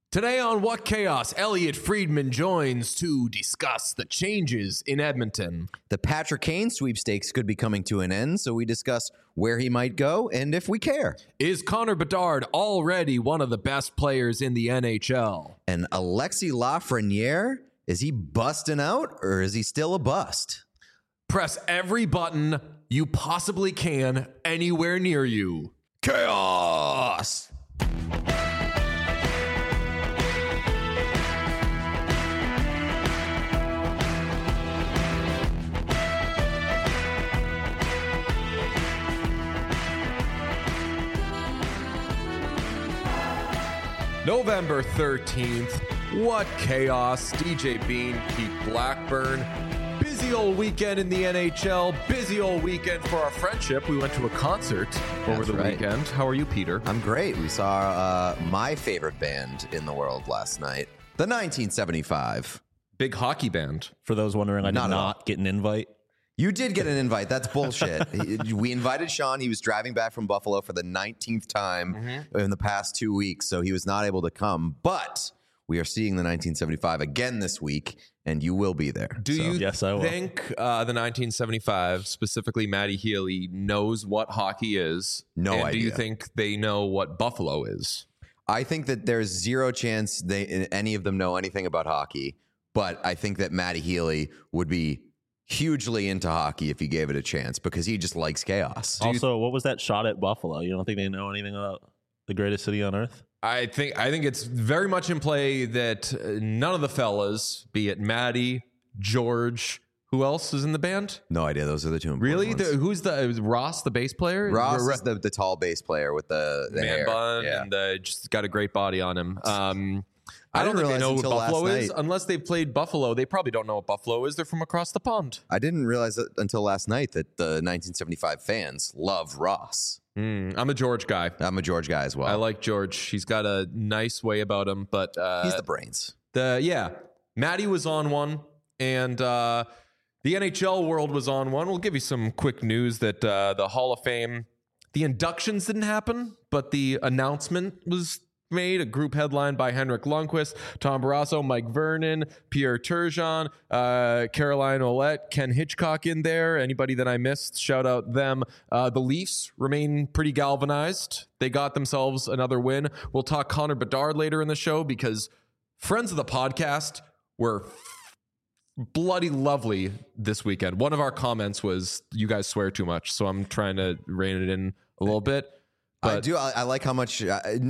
Today on What Chaos, Elliot Friedman joins to discuss the changes in Edmonton. The Patrick Kane sweepstakes could be coming to an end, so we discuss where he might go and if we care. Is Connor Bedard already one of the best players in the NHL? And Alexis Lafreniere, is he busting out or is he still a bust? Press every button you possibly can anywhere near you. Chaos! November 13th, What Chaos, DJ Bean, Keith Blackburn. Busy old weekend in the NHL, busy old weekend for our friendship. We went to a concert over the weekend. How are you, Peter? I'm great. We saw my favorite band in the world last night, the 1975. Big hockey band. For those wondering, I did not get an invite. You did get an invite. That's bullshit. We invited Sean. He was driving back from Buffalo for the 19th time in the past 2 weeks, so he was not able to come. But we are seeing the 1975 again this week, and you will be there. Do you Yes, I will. think the 1975, specifically Matty Healy, knows what hockey is? No and idea. Do you think they know what Buffalo is? I think that there's zero chance any of them know anything about hockey, but I think that Matty Healy would be hugely into hockey if he gave it a chance because he just likes chaos. Also, what was that shot at Buffalo? You don't think they know anything about the greatest city on earth? I think it's very much in play that none of the fellas, be it Matty, George, who else is in the band? No idea. Those are the two important Really? ones. Who's Ross, the bass player? Ross is the tall bass player with the man hair. bun Yeah. and just got a great body on him. I I don't didn't think they realize know what until last Buffalo is. night. Unless they've played Buffalo, they probably don't know what Buffalo is. They're from across the pond. I didn't realize that until last night that the 1975 fans love Ross. I'm a George guy. I'm a George guy as well. I like George. He's got a nice way about him, but He's the brains. Matty was on one, and the NHL world was on one. We'll give you some quick news that the Hall of Fame, the inductions didn't happen, but the announcement was made. A group headlined by Henrik Lundqvist, Tom Barrasso, Mike Vernon, Pierre Turgeon, Caroline Ouellette, Ken Hitchcock in there. Anybody that I missed, shout out them. The Leafs remain pretty galvanized. They got themselves another win. We'll talk Connor Bedard later in the show because friends of the podcast were bloody lovely this weekend. One of our comments was, you guys swear too much, so I'm trying to rein it in a little bit. I do. I like how much.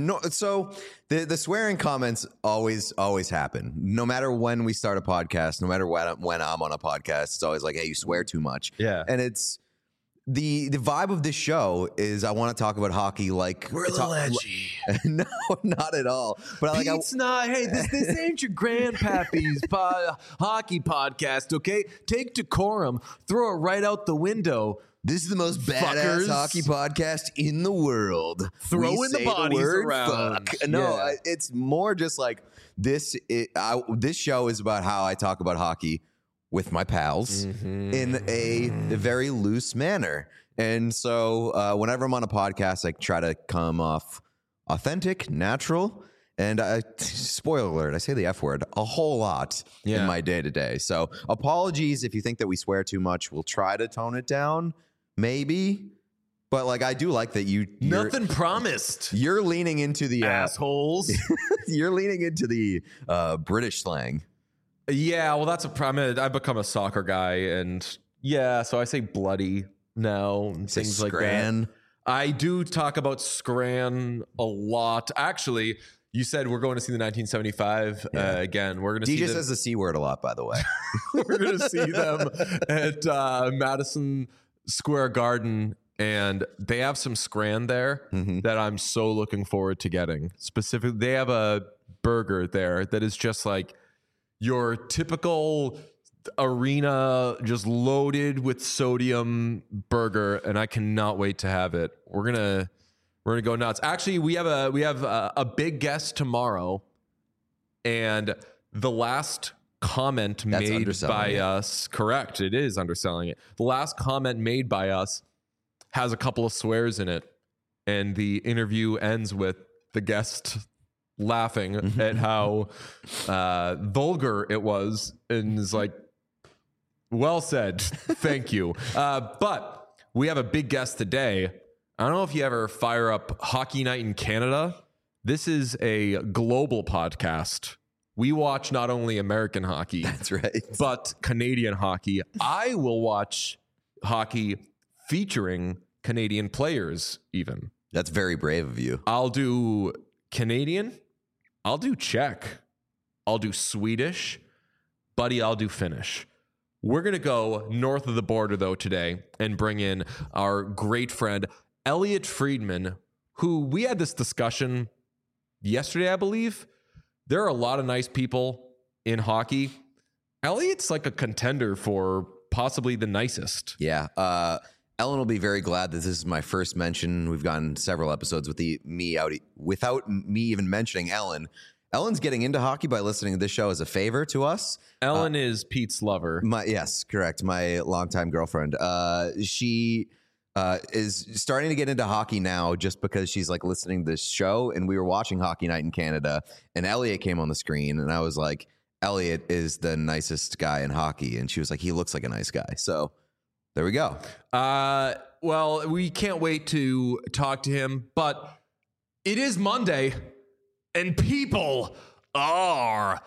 So the swearing comments always happen. No matter when we start a podcast, no matter when I'm on a podcast, it's always like, "Hey, you swear too much." Yeah. And it's the vibe of this show is I want to talk about hockey like We're a little edgy. No, not at all. But like, Pete's not. Hey, this ain't your grandpappy's hockey podcast, okay? Take decorum, throw it right out the window. this is the most badass Fuckers. hockey podcast in the world. Throwing We the say bodies word around. Fuck. No, Yeah. it's more just like this. This show is about how I talk about hockey with my pals in a very loose manner. And so whenever I'm on a podcast, I try to come off authentic, natural. And spoiler alert, I say the F word a whole lot in my day to day. So apologies if you think that we swear too much. We'll try to tone it down, maybe. But like, I do like that you're Nothing promised. You're leaning into the Assholes. you're leaning into the British slang. Yeah, well, that's a problem. I've become a soccer guy, and so I say bloody now and Say things like that. scran. I do talk about Scran a lot. Actually, you said we're going to see the 1975 again. We're going to see DJ them. says the C word a lot, by the way. We're going to see them at Madison Square Garden, and they have some Scran there that I'm so looking forward to getting. Specifically, they have a burger there that is just like your typical arena, just loaded with sodium burger, and I cannot wait to have it. We're gonna go nuts. Actually, we have a big guest tomorrow, and the last comment made underselling by it. us, correct? It is underselling it. The last comment made by us has a couple of swears in it, and the interview ends with the guest laughing at how vulgar it was, and is like, well said. Thank you. But we have a big guest today. I don't know if you ever fire up Hockey Night in Canada. This is a global podcast. We watch not only American hockey, That's right. but Canadian hockey. I will watch hockey featuring Canadian players even. That's very brave of you. I'll do Canadian. I'll do Czech. I'll do Swedish. Buddy, I'll do Finnish. We're going to go north of the border, though, today and bring in our great friend, Elliot Friedman, who we had this discussion yesterday, I believe. There are a lot of nice people in hockey. Elliot's like a contender for possibly the nicest. Yeah. Ellen will be very glad that this is my first mention. We've gotten several episodes without me even mentioning Ellen. Ellen's getting into hockey by listening to this show as a favor to us. Ellen is Pete's lover. Yes, correct. My longtime girlfriend. She is starting to get into hockey now just because she's like listening to this show, and we were watching Hockey Night in Canada, and Elliot came on the screen, and I was like, Elliot is the nicest guy in hockey, and she was like, he looks like a nice guy. So there we go. Well, we can't wait to talk to him, but it is Monday, and people are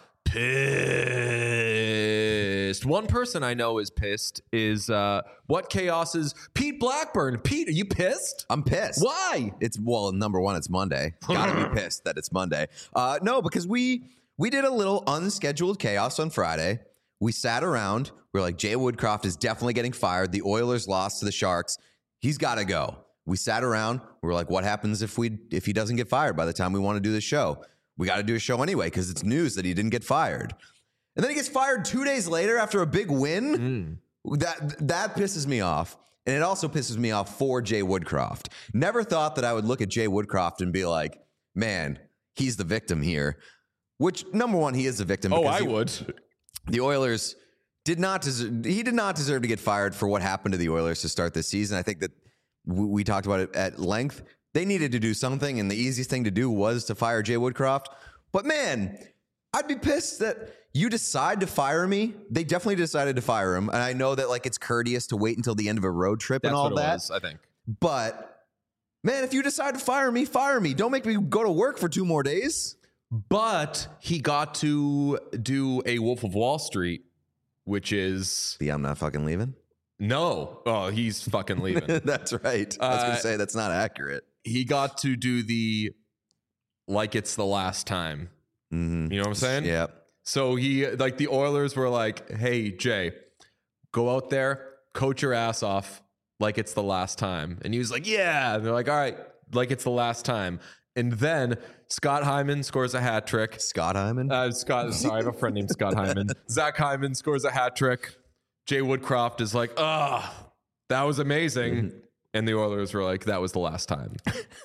pissed. One person I know is pissed is What Chaos's Pete Blackburn. Pete, are you pissed? I'm pissed. Why? Number one, it's Monday. Gotta be pissed that it's Monday. No, because we did a little unscheduled chaos on Friday. We sat around. We're like, Jay Woodcroft is definitely getting fired. The Oilers lost to the Sharks. He's got to go. We sat around. We were like, what happens if he doesn't get fired by the time we want to do the show? We got to do a show anyway because it's news that he didn't get fired. And then he gets fired 2 days later after a big win. That pisses me off. And it also pisses me off for Jay Woodcroft. Never thought that I would look at Jay Woodcroft and be like, man, he's the victim here. Which, number one, he is the victim. Oh, I would. The Oilers did not deserve to get fired for what happened to the Oilers to start this season. I think that we talked about it at length. They needed to do something, and the easiest thing to do was to fire Jay Woodcroft. But man, I'd be pissed that you decide to fire me. They definitely decided to fire him, and I know that like it's courteous to wait until the end of a road trip and all That's what that. it was, I think. But man, if you decide to fire me, fire me. Don't make me go to work for 2 more days. But he got to do a Wolf of Wall Street, which is I'm not fucking leaving. no. Oh, he's fucking leaving. That's right. I was going to say that's not accurate. He got to do the like it's the last time. Mm-hmm. You know what I'm saying? Yeah. So he like the Oilers were like, "Hey Jay, go out there, coach your ass off like it's the last time." And he was like, "Yeah." And they're like, "All right, like it's the last time." And then Scott Hyman scores a hat trick. Scott Hyman? Sorry, I have a friend named Scott Hyman. Zach Hyman scores a hat trick. Jay Woodcroft is like, that was amazing. Mm-hmm. And the Oilers were like, that was the last time.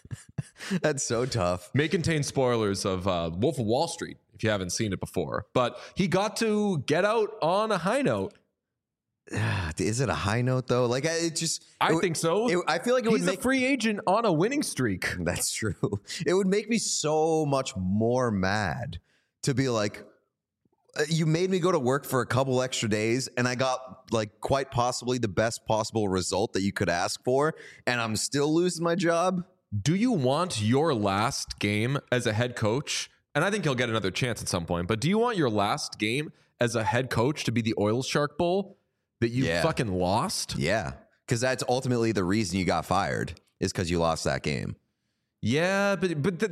That's so tough. May contain spoilers of Wolf of Wall Street if you haven't seen it before. But he got to get out on a high note. Is it a high note though? Like I think so. I feel like it He's would make a free agent on a winning streak. That's true. It would make me so much more mad to be like, you made me go to work for a couple extra days and I got like quite possibly the best possible result that you could ask for, and I'm still losing my job. Do you want your last game as a head coach? And I think he'll get another chance at some point, but do you want your last game as a head coach to be the Oils Shark Bowl that you fucking lost? Yeah. Because that's ultimately the reason you got fired, is because you lost that game. Yeah, but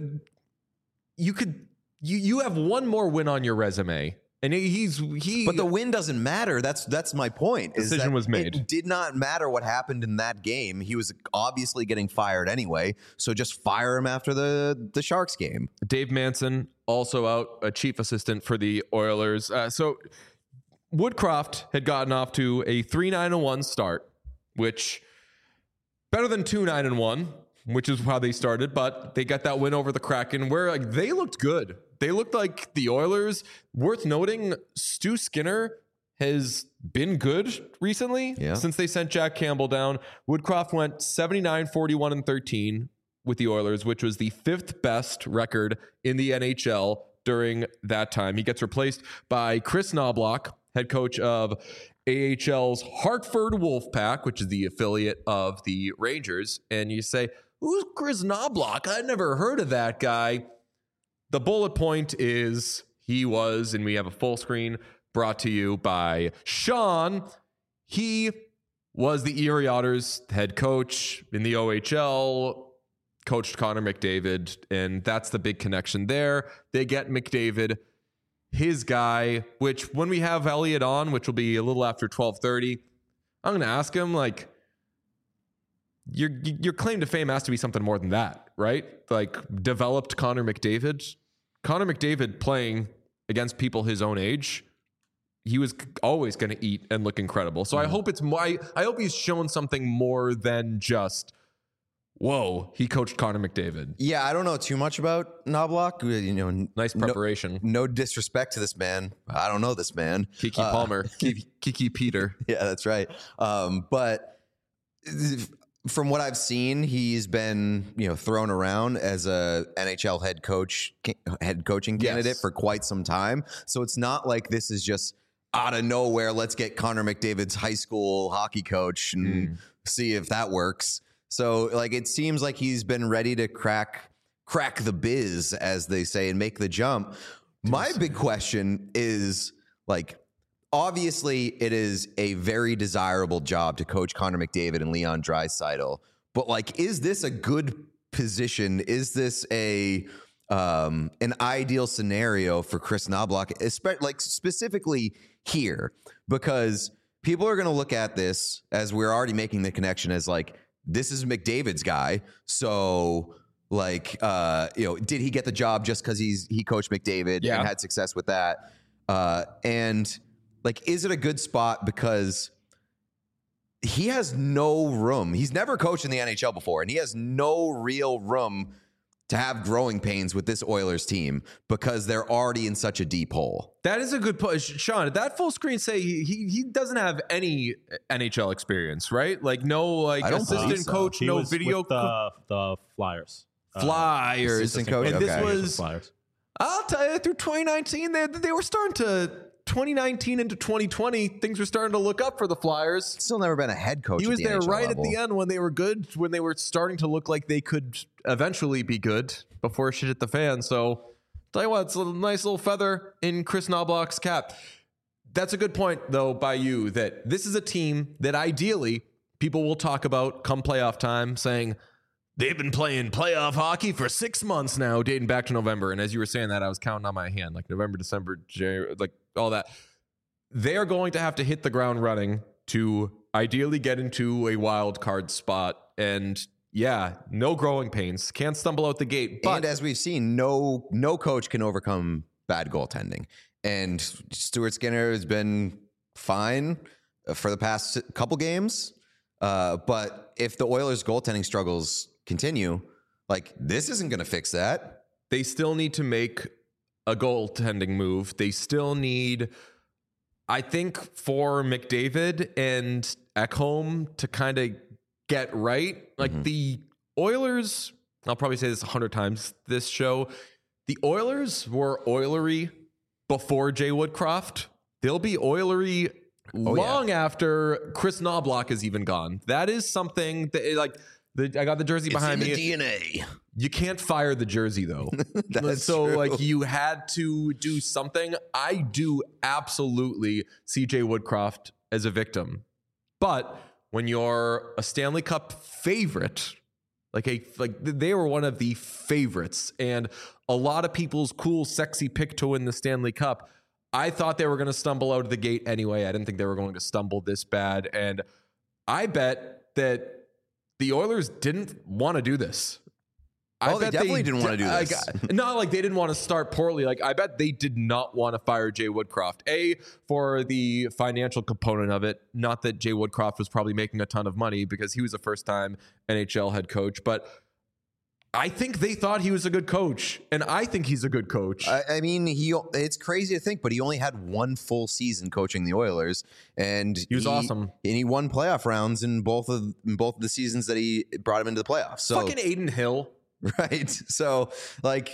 you have one more win on your resume. And But the win doesn't matter. That's my point. Decision was made. It did not matter what happened in that game. He was obviously getting fired anyway. So just fire him after the Sharks game. Dave Manson also out, a chief assistant for the Oilers. So Woodcroft had gotten off to a 3-9-1 start, which better than 2-9-1, which is how they started. But they got that win over the Kraken, where like they looked good. They looked like the Oilers. Worth noting, Stu Skinner has been good recently since they sent Jack Campbell down. Woodcroft went 79, 41, and 13 with the Oilers, which was the 5th best record in the NHL during that time. He gets replaced by Chris Knobloch, head coach of AHL's Hartford Wolfpack, which is the affiliate of the Rangers. And you say, who's Chris Knobloch? I never heard of that guy. The bullet point is he was, and we have a full screen brought to you by Sean. He was the Erie Otters head coach in the OHL, coached Connor McDavid, and that's the big connection there. They get McDavid, his guy, which when we have Elliot on, which will be a little after 12:30, I'm going to ask him, like, your claim to fame has to be something more than that, right? Like, developed Connor McDavid. Connor McDavid playing against people his own age, he was always going to eat and look incredible. So I hope I hope he's shown something more than just, whoa, he coached Connor McDavid. Yeah, I don't know too much about Knobloch. You know, Nice preparation. No disrespect to this man. I don't know this man. Kiki Palmer. Kiki Peter. Yeah, that's right. But from what I've seen, he's been, thrown around as a NHL head coaching candidate for quite some time. So it's not like this is just out of nowhere. Let's get Connor McDavid's high school hockey coach and see if that works. So like, it seems like he's been ready to crack the biz, as they say, and make the jump. My big question is, like, obviously, it is a very desirable job to coach Connor McDavid and Leon Draisaitl. But, like, is this a good position? Is this an ideal scenario for Chris Knobloch, specifically here? Because people are going to look at this, as we're already making the connection, as like, this is McDavid's guy. So, like, did he get the job just because he coached McDavid and had success with that? And like, is it a good spot because he has no room? He's never coached in the NHL before, and he has no real room to have growing pains with this Oilers team because they're already in such a deep hole. That is a good point. Sean, did that full screen say he doesn't have any NHL experience, right? Like, no, like, assistant coach, He no was video. with the Flyers. Flyers. Assistant coach. And this Okay. was, Flyers. I'll tell you, through 2019, they were starting to, 2019 into 2020, things were starting to look up for the Flyers. Still never been a head coach. He was at the there NHL right level. at the end when they were good, when they were starting to look like they could eventually be good before shit hit the fan. So, tell you what, it's a nice little feather in Chris Knobloch's cap. That's a good point, though, by you, that this is a team that ideally people will talk about come playoff time, saying they've been playing playoff hockey for 6 months now, dating back to November. And as you were saying that, I was counting on my hand, like November, December, January, like all that. They are going to have to hit the ground running to ideally get into a wild card spot. And yeah, no growing pains. Can't stumble out the gate. But And as we've seen, no coach can overcome bad goaltending. And Stuart Skinner has been fine for the past couple games. But if the Oilers' goaltending struggles continue, like, this isn't going to fix that. they still need to make a goaltending move. They still need, I think, for McDavid and Ekholm to kind of get right. Like the Oilers, I'll probably say this 100 times this show, the Oilers were oilery before Jay Woodcroft. They'll be oilery long after Chris Knobloch is even gone. That is something that, like, I got the jersey behind me. DNA. You can't fire the jersey, though. That's so, true. like, you had to do something. I do absolutely see Jay Woodcroft as a victim. But when you're a Stanley Cup favorite, like they were one of the favorites, and a lot of people's cool, sexy pick to win the Stanley Cup, I thought they were going to stumble out of the gate anyway. I didn't think they were going to stumble this bad. And I bet that the Oilers didn't want to do this. Oh, they definitely didn't want to do this. Not like they didn't want to start poorly. Like, I bet they did not want to fire Jay Woodcroft. A, for the financial component of it. Not that Jay Woodcroft was probably making a ton of money because he was a first-time NHL head coach. But I think they thought he was a good coach, and I think he's a good coach. I mean, it's crazy to think, but he only had one full season coaching the Oilers, and He was awesome. And he won playoff rounds in both of the seasons that he brought him into the playoffs. So, Fucking Aiden Hill. right. So like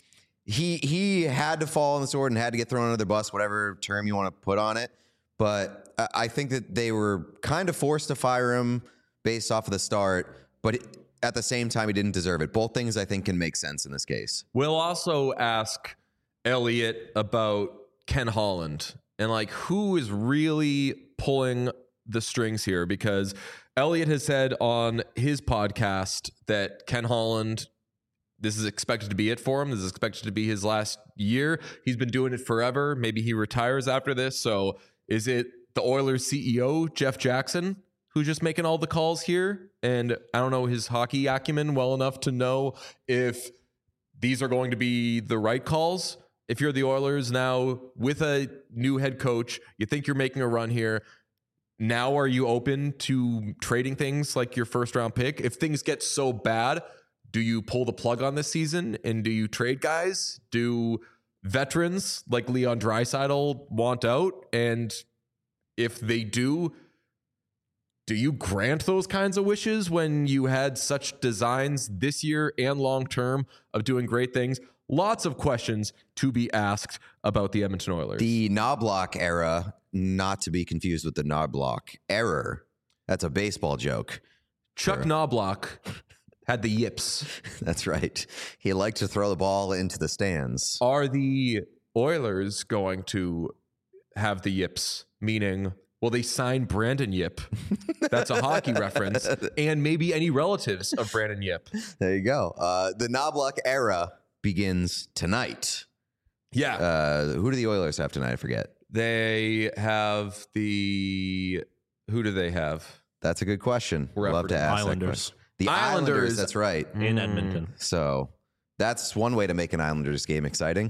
he had to fall on the sword and had to get thrown under the bus, whatever term you want to put on it. But I think that they were kind of forced to fire him based off of the start, but at the same time, he didn't deserve it. Both things I think can make sense in this case. We'll also ask Elliot about Ken Holland and like who is really pulling the strings here, because Elliot has said on his podcast that Ken Holland, this is expected to be it for him. This is expected to be his last year. He's been doing it forever. Maybe he retires after this. So is it the Oilers CEO, Jeff Jackson, who's just making all the calls here? And I don't know his hockey acumen well enough to know if these are going to be the right calls. If you're the Oilers now with a new head coach, you think you're making a run here. Now, are you open to trading things like your first round pick? If things get so bad, do you pull the plug on this season and do you trade guys? Do veterans like Leon Draisaitl want out? And if they do you grant those kinds of wishes when you had such designs this year and long term of doing great things? Lots of questions to be asked about the Edmonton Oilers. The Knobloch era, not to be confused with the Knobloch error. That's a baseball joke. Chuck Knobloch had the yips. That's right. He liked to throw the ball into the stands. Are the Oilers going to have the yips? Meaning, will they sign Brandon Yip? That's a hockey reference. And maybe any relatives of Brandon Yip. There you go. The Knobloch era begins tonight. Yeah. Who do the Oilers have tonight? I forget. They have the... Who do they have? That's a good question. We're Love to ask Islanders. that question. The Islanders. Islanders, that's right. In Edmonton. So that's one way to make an Islanders game exciting.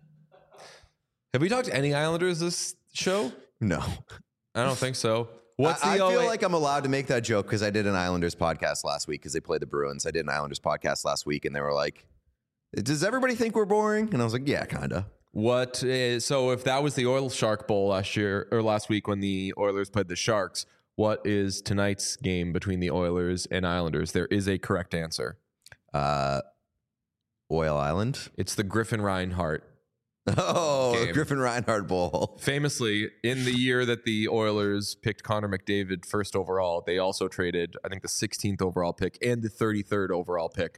Have we talked to any Islanders this show? No. I don't think so. I feel like I'm allowed to make that joke because I did an Islanders podcast last week because they played the Bruins. I did an Islanders podcast last week and they were like, does everybody think we're boring? And I was like, yeah, kind of. So if that was the Oil Shark Bowl last week when the Oilers played the Sharks, what is tonight's game between the Oilers and Islanders? There is a correct answer. Oil Island. It's the Griffin Reinhart. Oh, game. Griffin Reinhart Bowl. Famously, in the year that the Oilers picked Connor McDavid first overall, they also traded, I think, the 16th overall pick and the 33rd overall pick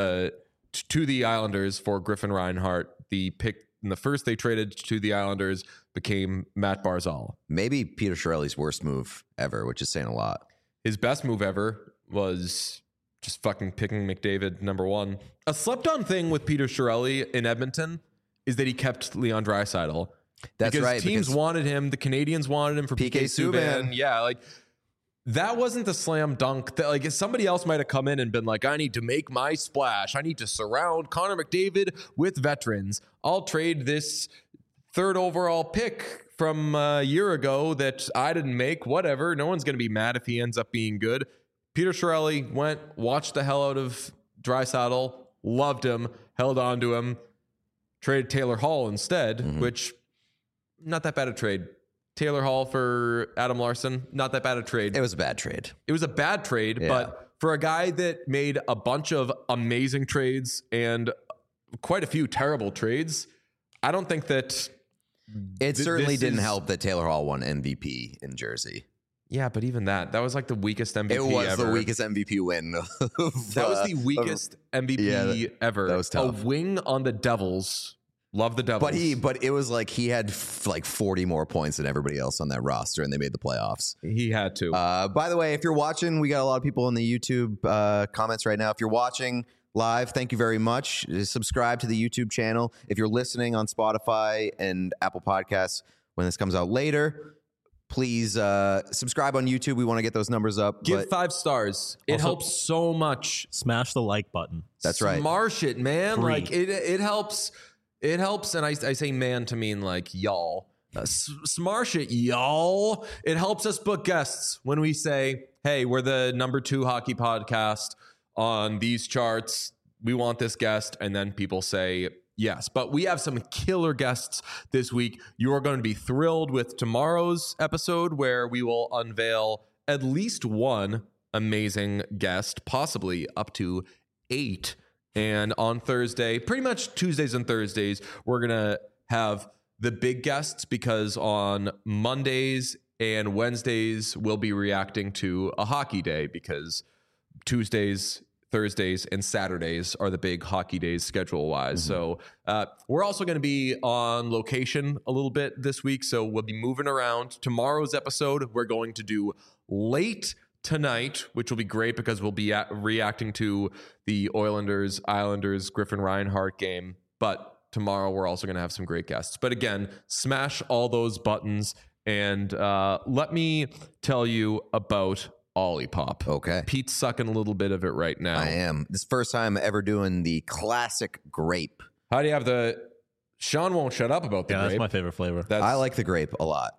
to the Islanders for Griffin Reinhart. The pick in the first they traded to the Islanders became Matt Barzal. Maybe Peter Chiarelli's worst move ever, which is saying a lot. His best move ever was just fucking picking McDavid number one. A slept-on thing with Peter Chiarelli in Edmonton is that he kept Leon Draisaitl. That's because right. Teams wanted him. The Canadians wanted him for PK Subban. Yeah, like that wasn't the slam dunk. That like somebody else might have come in and been like, I need to make my splash. I need to surround Connor McDavid with veterans. I'll trade this third overall pick from a year ago that I didn't make. Whatever. No one's going to be mad if he ends up being good. Peter Chiarelli went, watched the hell out of Draisaitl, loved him, held on to him. Traded Taylor Hall instead, which not that bad a trade. Taylor Hall for Adam Larson, not that bad a trade. It was a bad trade. It was a bad trade, Yeah. but for a guy that made a bunch of amazing trades and quite a few terrible trades, I don't think that... It certainly this didn't is- help that Taylor Hall won MVP in Jersey. Yeah, but even that was like the weakest MVP It was ever. the weakest MVP win. That was the weakest MVP ever. that was tough. A wing on the Devils. Love the Devils. But it was like he had like 40 more points than everybody else on that roster, and they made the playoffs. He had to. By the way, if you're watching, we got a lot of people in the YouTube comments right now. If you're watching live, thank you very much. Subscribe to the YouTube channel. If you're listening on Spotify and Apple Podcasts when this comes out later, please subscribe on YouTube. We want to get those numbers up. Give but 5 stars. It Also- helps so much. Smash the like button. That's right. Smarsh it, man. Free. Like it helps. It helps, and I say man to mean like y'all. Smarsh it, y'all. It helps us book guests when we say, hey, we're the #2 hockey podcast on these charts. we want this guest, and then people say yes. But we have some killer guests this week. You are going to be thrilled with tomorrow's episode, where we will unveil at least one amazing guest, possibly up to 8. And on Thursday, pretty much Tuesdays and Thursdays, we're going to have the big guests, because on Mondays and Wednesdays, we'll be reacting to a hockey day, because Tuesdays, Thursdays, and Saturdays are the big hockey days schedule-wise. So we're also going to be on location a little bit this week, so we'll be moving around. Tomorrow's episode, we're going to do late tonight, which will be great because we'll be reacting to the Islanders Griffin Reinhart game. But tomorrow we're also going to have some great guests. But again, smash all those buttons, and let me tell you about Olipop. Okay. Pete's sucking a little bit of it right now. I am. This is the first time ever doing the classic grape. How do you have the... Sean won't shut up about the grape. That's my favorite flavor. I like the grape a lot.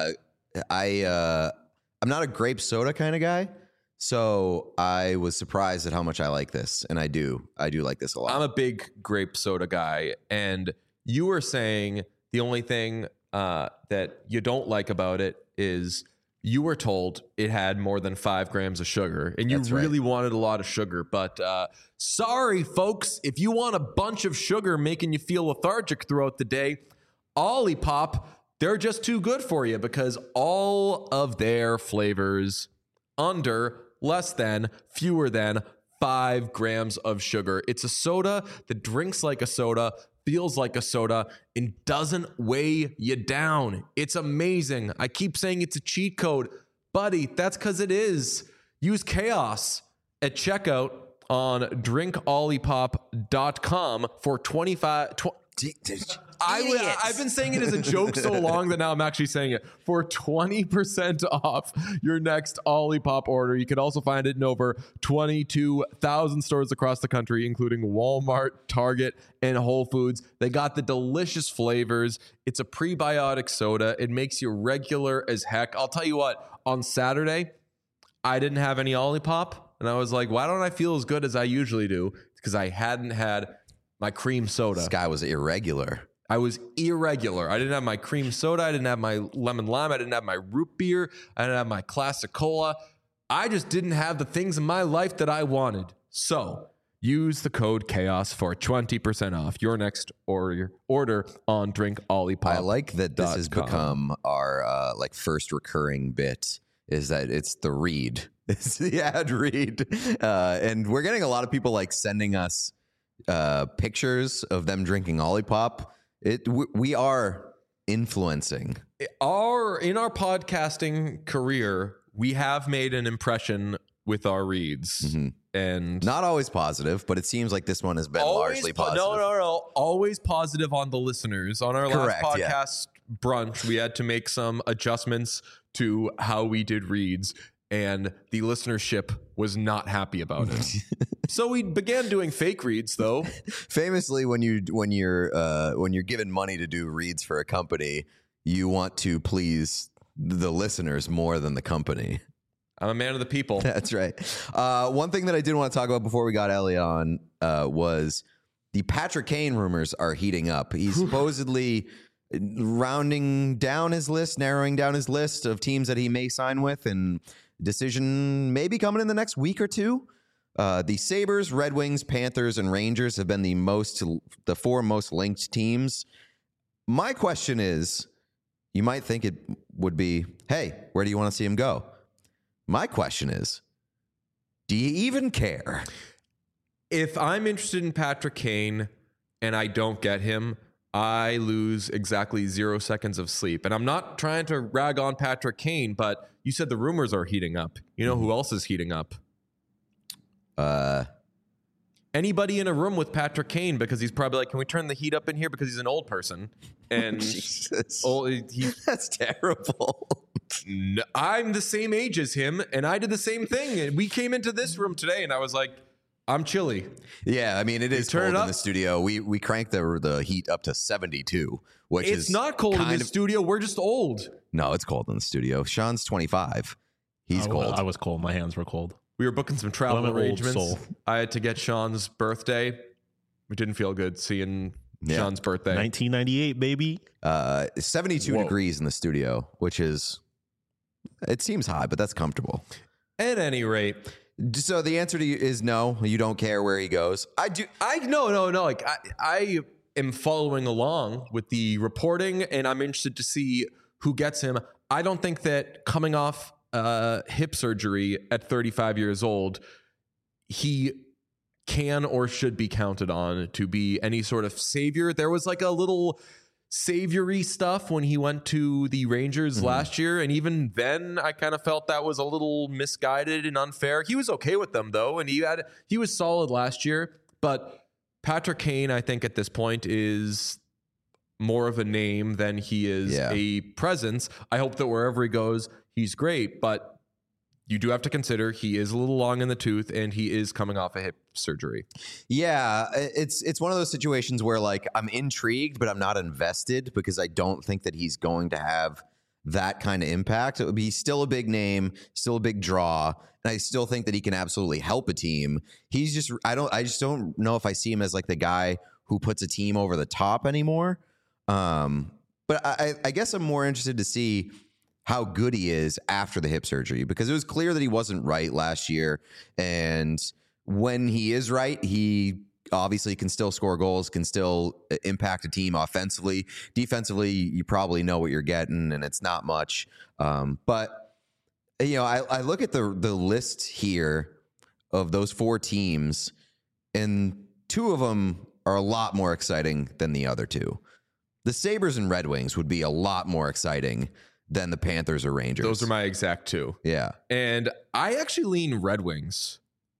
I'm not a grape soda kind of guy, so I was surprised at how much I like this, and I do like this a lot. I'm a big grape soda guy, and you were saying the only thing that you don't like about it is you were told it had more than 5 grams of sugar, and you really wanted a lot of sugar. But sorry, folks, if you want a bunch of sugar making you feel lethargic throughout the day, Olipop, they're just too good for you, because all of their flavors under, less than, fewer than 5 grams of sugar. It's a soda that drinks like a soda, feels like a soda, and doesn't weigh you down. It's amazing. I keep saying it's a cheat code. Buddy, that's because it is. Use Chaos at checkout on drinkolipop.com for 25... I've been saying it as a joke so long that now I'm actually saying it. For 20% off your next Olipop order. You can also find it in over 22,000 stores across the country, including Walmart, Target, and Whole Foods. They got the delicious flavors. It's a prebiotic soda. It makes you regular as heck. I'll tell you what, on Saturday, I didn't have any Olipop, and I was like, why don't I feel as good as I usually do? It's because I hadn't had my cream soda. This guy was irregular. I was irregular. I didn't have my cream soda. I didn't have my lemon lime. I didn't have my root beer. I didn't have my classic cola. I just didn't have the things in my life that I wanted. So use the code CHAOS for 20% off your next order on Drinkolipop. I like that this has become our first recurring bit, is that it's the read. It's the ad read. And we're getting a lot of people like sending us pictures of them drinking Olipop. We are influencing. In our podcasting career, we have made an impression with our reads, and not always positive, but it seems like this one has been largely positive. No, always positive on the listeners. On our last podcast brunch, we had to make some adjustments to how we did reads, and the listenership was not happy about it. So we began doing fake reads, though. Famously, when you're given money to do reads for a company, you want to please the listeners more than the company. I'm a man of the people. That's right. One thing that I did want to talk about before we got Ellie on was the Patrick Kane rumors are heating up. He's supposedly narrowing down his list of teams that he may sign with, and decision may be coming in the next week or two. The Sabres, Red Wings, Panthers, and Rangers have been the 4 most linked teams. My question is, you might think it would be, hey, where do you want to see him go? My question is, do you even care? If I'm interested in Patrick Kane and I don't get him, I lose exactly 0 seconds of sleep. And I'm not trying to rag on Patrick Kane, but you said the rumors are heating up. You know who else is heating up? Anybody in a room with Patrick Kane, because he's probably like, can we turn the heat up in here, because he's an old person. And Jesus. That's terrible. No, I'm the same age as him, and I did the same thing. And we came into this room today, and I was like, I'm chilly. Yeah, I mean, it is cold in the studio. We cranked the heat up to 72, which is not cold in the studio. We're just old. No, it's cold in the studio. Sean's 25. He's cold. I was cold. My hands were cold. we were booking some travel I'm an old arrangements. soul. I had to get Sean's birthday. It didn't feel good seeing Sean's birthday. 1998, baby. 72 Whoa. degrees in the studio, which is, it seems high, but that's comfortable. At any rate, So the answer to you is no, you don't care where he goes. no. Like I am following along with the reporting, and I'm interested to see who gets him. I don't think that coming off hip surgery at 35 years old, he can or should be counted on to be any sort of savior. There was like a little saviory stuff when he went to the Rangers last year, and even then I kind of felt that was a little misguided and unfair. He was okay with them though, and he was solid last year, but Patrick Kane, I think at this point, is more of a name than he is a presence. I hope that wherever he goes, he's great, but you do have to consider he is a little long in the tooth and he is coming off a hip surgery. Yeah, it's one of those situations where like I'm intrigued, but I'm not invested because I don't think that he's going to have that kind of impact. It would be still a big name, still a big draw, and I still think that he can absolutely help a team. He's just I just don't know if I see him as like the guy who puts a team over the top anymore. But I guess I'm more interested to see how good he is after the hip surgery, because it was clear that he wasn't right last year. And when he is right, he obviously can still score goals, can still impact a team offensively. Defensively, you probably know what you're getting, and it's not much. But, you know, I look at the list here of those 4 teams, and 2 of them are a lot more exciting than the other 2. The Sabres and Red Wings would be a lot more exciting than the Panthers or Rangers. Those are my exact 2. Yeah. And I actually lean Red Wings.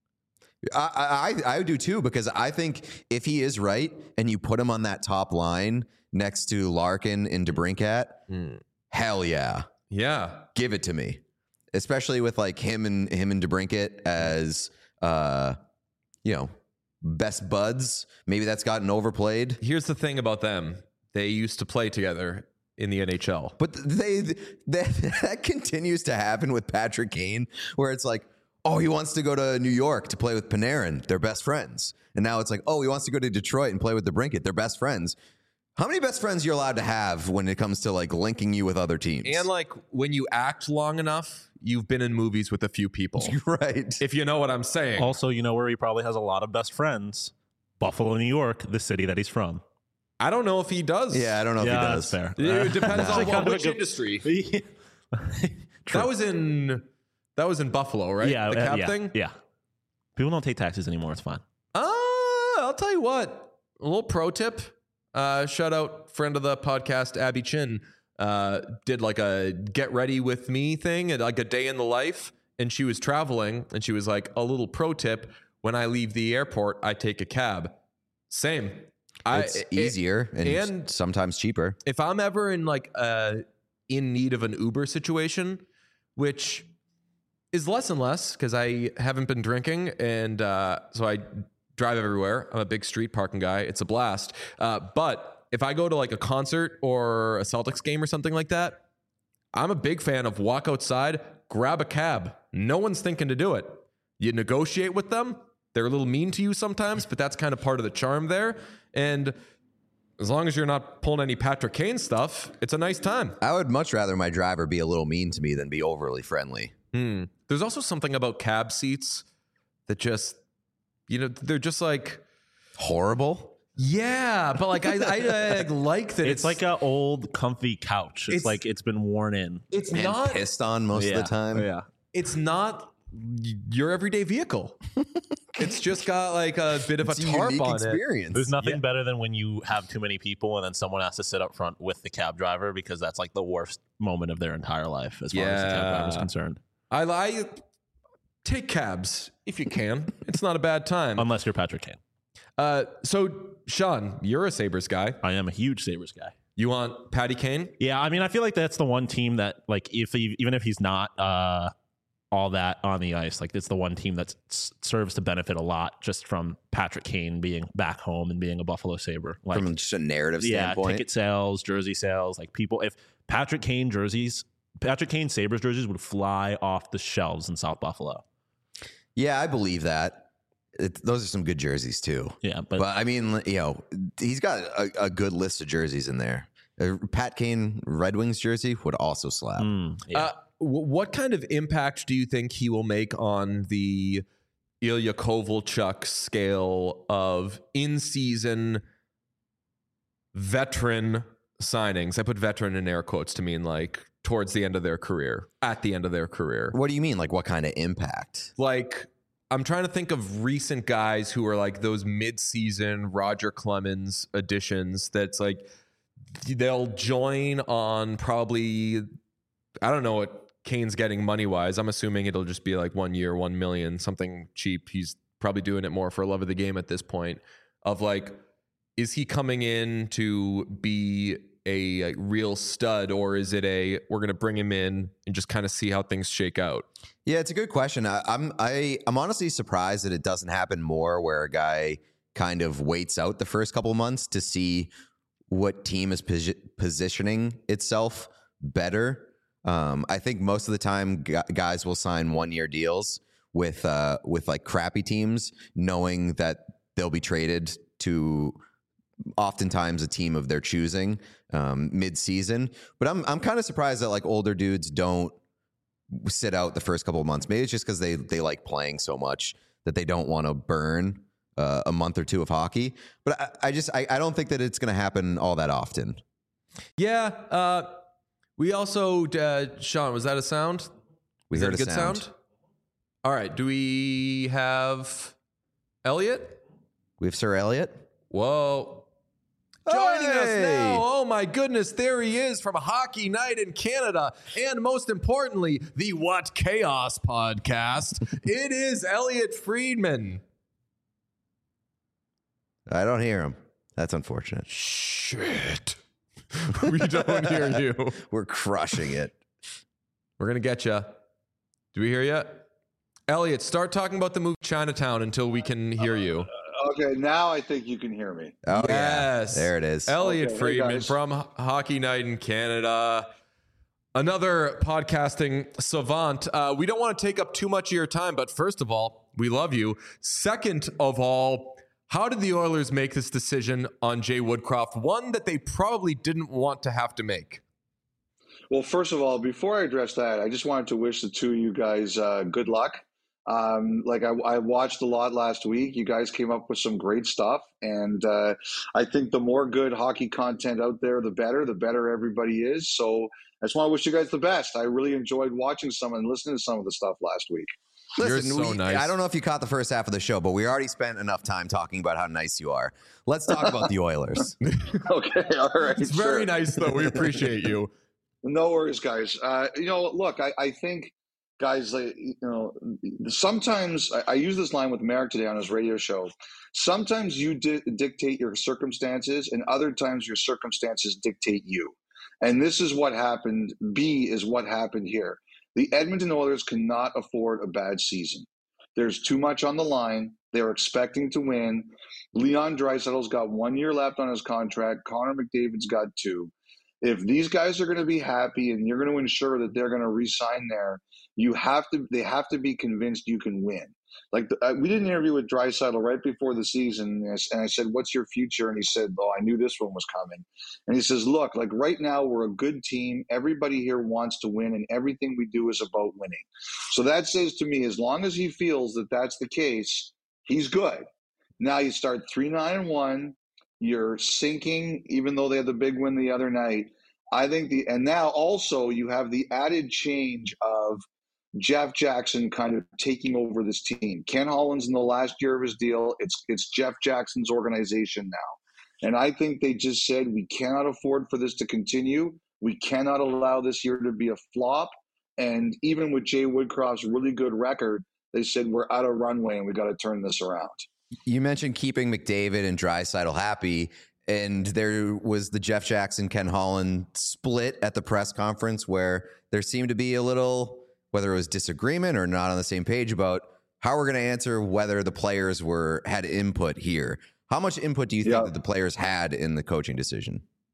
I do too, because I think if he is right and you put him on that top line next to Larkin and DeBrincat, hell yeah. Yeah. Give it to me. Especially with like him and DeBrincat as you know, best buds. Maybe that's gotten overplayed. Here's the thing about them. They used to play together in the NHL. But that continues to happen with Patrick Kane, where it's like, oh, he wants to go to New York to play with Panarin. They're best friends. And now it's like, oh, he wants to go to Detroit and play with DeBrincat. They're best friends. How many best friends you're allowed to have when it comes to like linking you with other teams? And like when you act long enough, you've been in movies with a few people. Right. If you know what I'm saying. Also, you know where he probably has a lot of best friends? Buffalo, New York, the city that he's from. I don't know if he does. Yeah, I don't know if he does. That's fair. It depends on Kind of which a good- industry. True. That was in Buffalo, right? Yeah, the cab yeah, thing. Yeah. People don't take taxes anymore. It's fine. I'll tell you what. A little pro tip. Shout out friend of the podcast, Abby Chin. Did like a get ready with me thing, and like a day in the life. And she was traveling, and she was like, a little pro tip: when I leave the airport, I take a cab. Same. It's easier and sometimes cheaper. If I'm ever in like in need of an Uber situation, which is less and less because I haven't been drinking, and so I drive everywhere. I'm a big street parking guy. It's a blast. But if I go to like a concert or a Celtics game or something like that, I'm a big fan of walk outside, grab a cab. No one's thinking to do it. You negotiate with them. They're a little mean to you sometimes, but that's kind of part of the charm there. And as long as you're not pulling any Patrick Kane stuff, it's a nice time. I would much rather my driver be a little mean to me than be overly friendly. There's also something about cab seats that just, you know, they're just like Horrible. Yeah, but like I like that. It's like an old comfy couch. It's It's- like it's been worn in. it's And not. pissed on most of the time. Yeah. It's not your everyday vehicle. It's just got like a bit of It's a a tarp unique on it. experience. There's nothing better than when you have too many people and then someone has to sit up front with the cab driver, because that's like the worst moment of their entire life as far as the cab driver is Yeah. concerned. I take cabs if you can. It's not a bad time. Unless you're Patrick Kane. So Sean, you're a Sabres guy. I am a huge Sabres guy. You want Patty Kane? Yeah, I mean, I feel like that's the one team that, like, even if he's not all that on the ice, like, it's the one team that serves to benefit a lot just from Patrick Kane being back home and being a Buffalo Sabre. Like, From just a narrative yeah, standpoint. ticket sales, jersey sales, like people. If Patrick Kane Sabres jerseys would fly off the shelves in South Buffalo. Yeah, I believe that. Those are some good jerseys too. Yeah, But I mean, he's got a good list of jerseys in there. A Pat Kane Red Wings jersey would also slap. What kind of impact do you think he will make on the Ilya Kovalchuk scale of in-season veteran signings? I put veteran in air quotes to mean like towards the end of their career, at the end of their career. What do you mean? Like what kind of impact? Like, I'm trying to think of recent guys who are like those mid-season Roger Clemens additions that's like they'll join on probably, I don't know what Kane's getting money-wise. I'm assuming it'll just be like 1 year, 1 million, something cheap. He's probably doing it more for love of the game at this point of like, is he coming in to be a real stud, or is it we're going to bring him in and just kind of see how things shake out? Yeah, it's a good question. I'm honestly surprised that it doesn't happen more where a guy kind of waits out the first couple of months to see what team is positioning itself better. I think most of the time guys will sign 1 year deals with like crappy teams, knowing that they'll be traded to oftentimes a team of their choosing mid-season. But I'm kind of surprised that like older dudes don't sit out the first couple of months. Maybe it's just because they like playing so much that they don't want to burn a month or two of hockey. But I don't think that it's going to happen all that often. Yeah. We also, Sean, was that a sound? We heard a good sound. All right. Do we have Elliot? We have Sir Elliot. Whoa. Joining us now. Oh my goodness. There he is from Hockey Night in Canada. And most importantly, the What Chaos podcast. It is Elliot Friedman. I don't hear him. That's unfortunate. Shit. We don't hear you. We're crushing it. We're going to get you. Do we hear you? Elliot, start talking about the movie Chinatown until we can hear you. Okay, now I think you can hear me. Oh, yes. Yeah. There it is. Elliot Friedman hey from Hockey Night in Canada. Another podcasting savant. We don't want to take up too much of your time, but first of all, we love you. Second of all, how did the Oilers make this decision on Jay Woodcroft? One that they probably didn't want to have to make. Well, first of all, before I address that, I just wanted to wish the two of you guys good luck. I watched a lot last week. You guys came up with some great stuff, and I think the more good hockey content out there, the better everybody is. So I just want to wish you guys the best. I really enjoyed watching some and listening to some of the stuff last week. Listen, You're so nice. I don't know if you caught the first half of the show, but we already spent enough time talking about how nice you are. Let's talk about the Oilers. Okay, all right. It's very nice, though. We appreciate you. No worries, guys. Look, I think, guys, sometimes I use this line with Merrick today on his radio show. Sometimes you dictate your circumstances, and other times your circumstances dictate you. And this is what happened. B is what happened here. The Edmonton Oilers cannot afford a bad season. There's too much on the line. They're expecting to win. Leon Draisaitl's got 1 year left on his contract. Connor McDavid's got 2. If these guys are going to be happy and you're going to ensure that they're going to re-sign there, they have to be convinced you can win. Like we did an interview with Draisaitl right before the season, and I said, "What's your future?" And he said, "Oh, I knew this one was coming." And he says, "Look, like right now we're a good team. Everybody here wants to win, and everything we do is about winning." So that says to me, as long as he feels that that's the case, he's good. Now you start 3-9-1. You're sinking, even though they had the big win the other night. I think and now also you have the added change of Jeff Jackson kind of taking over this team. Ken Holland's in the last year of his deal. It's Jeff Jackson's organization now. And I think they just said, we cannot afford for this to continue. We cannot allow this year to be a flop. And even with Jay Woodcroft's really good record, they said, we're out of runway and we got to turn this around. You mentioned keeping McDavid and Draisaitl happy, and there was the Jeff Jackson, Ken Holland split at the press conference where there seemed to be a little, whether it was disagreement or not on the same page about how we're going to answer whether the players had input here. How much input do you think that the players had in the coaching decision?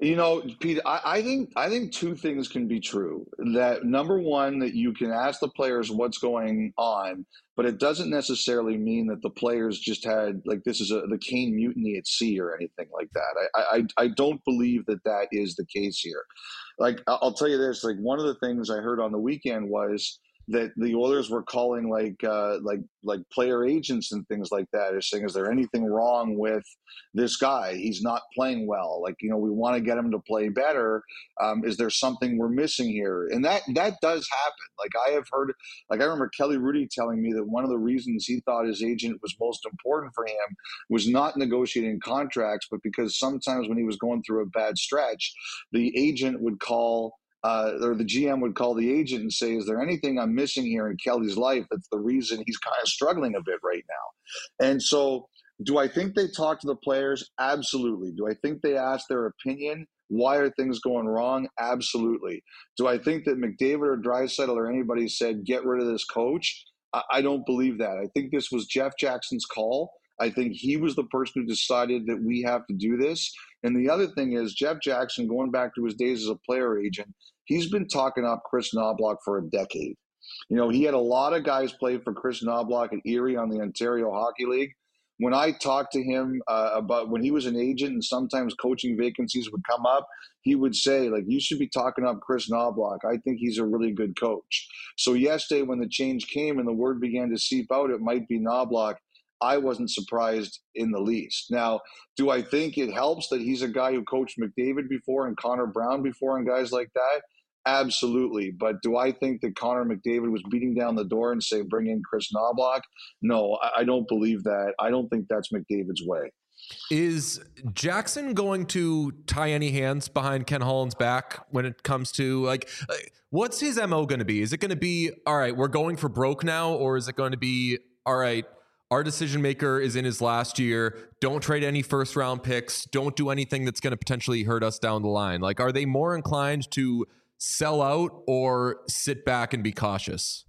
You know, Pete, I think two things can be true. That number one, that you can ask the players what's going on, but it doesn't necessarily mean that the players just had like this is the Kane mutiny at sea or anything like that. I don't believe that that is the case here. Like I'll tell you this, like one of the things I heard on the weekend was that the Oilers were calling like player agents and things like that, is saying, is there anything wrong with this guy? He's not playing well. Like, you know, we want to get him to play better. Is there something we're missing here? And that does happen. Like I have heard, like I remember Kelly Rudy telling me that one of the reasons he thought his agent was most important for him was not negotiating contracts, but because sometimes when he was going through a bad stretch, the agent would call or the GM would call the agent and say, is there anything I'm missing here in Kelly's life that's the reason he's kind of struggling a bit right now? And so do I think they talk to the players? Absolutely. Do I think they ask their opinion? Why are things going wrong? Absolutely. Do I think that McDavid or Draisaitl or anybody said, get rid of this coach? I don't believe that. I think this was Jeff Jackson's call. I think he was the person who decided that we have to do this. And the other thing is Jeff Jackson, going back to his days as a player agent, he's been talking up Chris Knobloch for a decade. You know, he had a lot of guys play for Chris Knobloch at Erie on the Ontario Hockey League. When I talked to him about when he was an agent and sometimes coaching vacancies would come up, he would say, like, you should be talking up Chris Knobloch. I think he's a really good coach. So yesterday when the change came and the word began to seep out, it might be Knobloch. I wasn't surprised in the least. Now, do I think it helps that he's a guy who coached McDavid before and Connor Brown before and guys like that? Absolutely. But do I think that Connor McDavid was beating down the door and say, bring in Chris Knobloch? No, I don't believe that. I don't think that's McDavid's way. Is Jackson going to tie any hands behind Ken Holland's back when it comes to like what's his MO going to be? Is it going to be, all right, we're going for broke now? Or is it going to be, all right, our decision maker is in his last year. Don't trade any first round picks. Don't do anything that's going to potentially hurt us down the line. Like, are they more inclined to sell out or sit back and be cautious?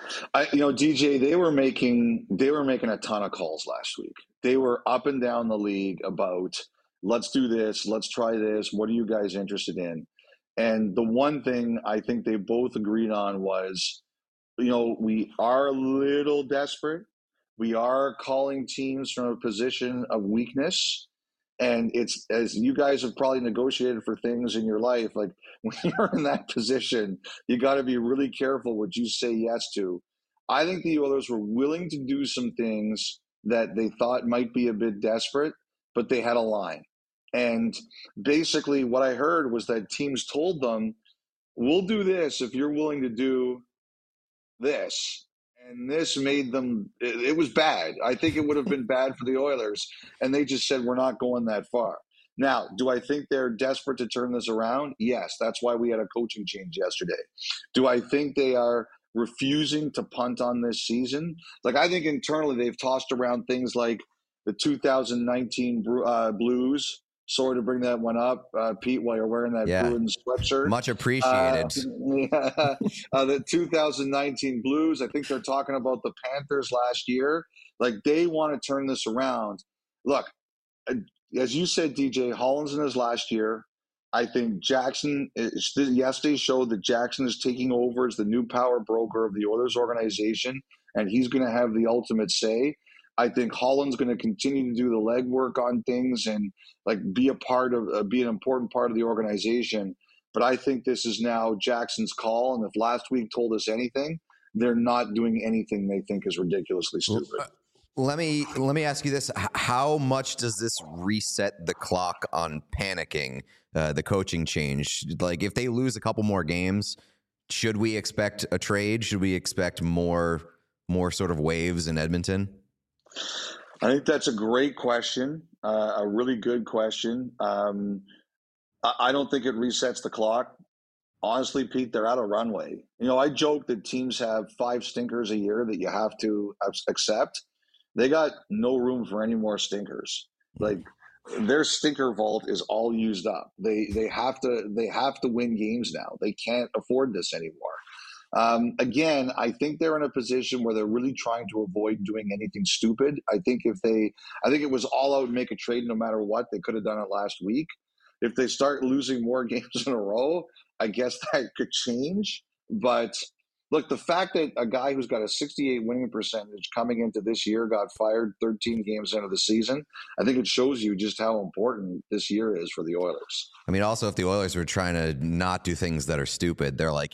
DJ, they were making a ton of calls last week. They were up and down the league about, let's do this, let's try this. What are you guys interested in? And the one thing I think they both agreed on was, we are a little desperate. We are calling teams from a position of weakness. And it's, as you guys have probably negotiated for things in your life, like when you're in that position, you got to be really careful what you say yes to. I think the Oilers were willing to do some things that they thought might be a bit desperate, but they had a line. And basically what I heard was that teams told them, we'll do this if you're willing to do this. And this made them, it was bad. I think it would have been bad for the Oilers. And they just said, we're not going that far. Now, do I think they're desperate to turn this around? Yes. That's why we had a coaching change yesterday. Do I think they are refusing to punt on this season? Like, I think internally they've tossed around things like the 2019 Blues. Sorry to bring that one up, Pete, while you're wearing that Bruins sweatshirt. Much appreciated. The 2019 Blues, I think they're talking about the Panthers last year. Like, they want to turn this around. Look, as you said, DJ, Holland's in his last year. I think Jackson, yesterday showed that Jackson is taking over as the new power broker of the Oilers organization, and he's going to have the ultimate say. I think Holland's going to continue to do the legwork on things and be an important part of the organization. But I think this is now Jackson's call. And if last week told us anything, they're not doing anything they think is ridiculously stupid. Let me ask you this. How much does this reset the clock on panicking, the coaching change? Like, if they lose a couple more games, should we expect a trade? Should we expect more sort of waves in Edmonton? I think that's a great question, a really good question. I don't think it resets the clock. Honestly, Pete, they're out of runway. I joke that teams have 5 stinkers a year that you have to accept. They got no room for any more stinkers. Like, their stinker vault is all used up. They have to win games now. They can't afford this anymore. Again, I think they're in a position where they're really trying to avoid doing anything stupid. I think it was all out, make a trade no matter what. They could have done it last week. If they start losing more games in a row, I guess that could change. But look, the fact that a guy who's got a 68 winning percentage coming into this year got fired 13 games into the season, I think it shows you just how important this year is for the Oilers. I mean, also, if the Oilers were trying to not do things that are stupid, they're like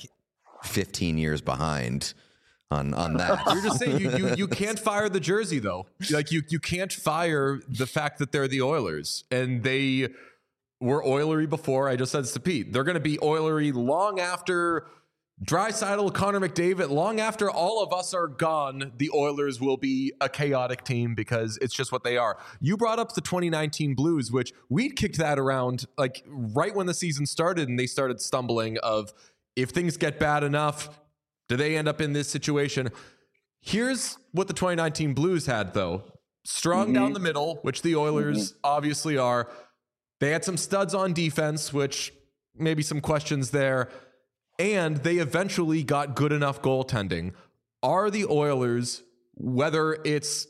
15 years behind on that. You're just saying you can't fire the jersey, though. Like you can't fire the fact that they're the Oilers, and they were Oilery before. I just said to Pete, they're going to be Oilery long after Draisaitl, Connor McDavid, long after all of us are gone. The Oilers will be a chaotic team because it's just what they are. You brought up the 2019 Blues, which we kicked that around like right when the season started, and they started stumbling of if things get bad enough, do they end up in this situation? Here's what the 2019 Blues had, though. Strong down the middle, which the Oilers obviously are. They had some studs on defense, which maybe some questions there. And they eventually got good enough goaltending. Are the Oilers, whether it's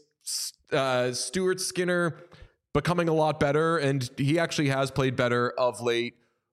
Stuart Skinner becoming a lot better, and he actually has played better of late,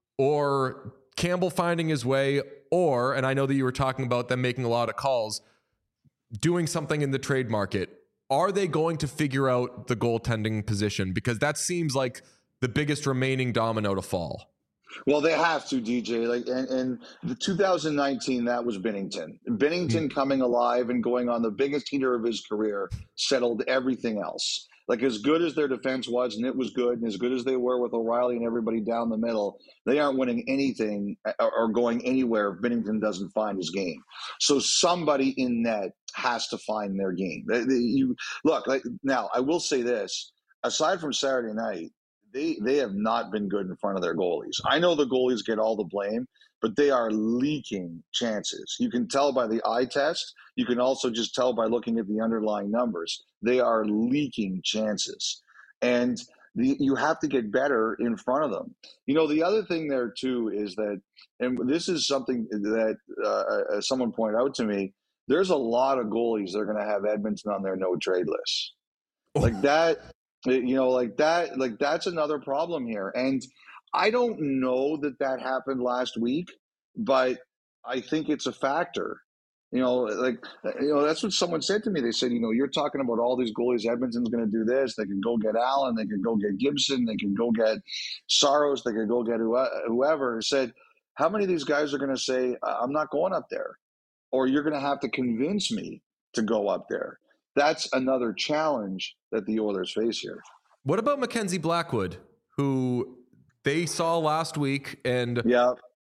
or Campbell finding his way, or, and I know that you were talking about them making a lot of calls, doing something in the trade market, are they going to figure out the goaltending position? Because that seems like the biggest remaining domino to fall. Well, they have to, DJ. Like, and the 2019, that was Binnington. Binnington coming alive and going on the biggest heater of his career settled everything else. Like, as good as their defense was, and it was good, and as good as they were with O'Reilly and everybody down the middle, they aren't winning anything or going anywhere if Binnington doesn't find his game. So somebody in net has to find their game. Look, like, now, I will say this. Aside from Saturday night, they have not been good in front of their goalies. I know the goalies get all the blame, but they are leaking chances. You can tell by the eye test. You can also just tell by looking at the underlying numbers. They are leaking chances. And you have to get better in front of them. You know, the other thing there, too, is that, and this is something that someone pointed out to me, there's a lot of goalies that are going to have Edmonton on their no-trade list. Like that. You know, like that's another problem here. And I don't know that happened last week, but I think it's a factor. You know, that's what someone said to me. They said, you're talking about all these goalies. Edmonton's going to do this. They can go get Allen. They can go get Gibson. They can go get Saros. They can go get whoever. I said, how many of these guys are going to say, I'm not going up there? Or you're going to have to convince me to go up there. That's another challenge that the Oilers face here. What about Mackenzie Blackwood, who they saw last week? And yeah,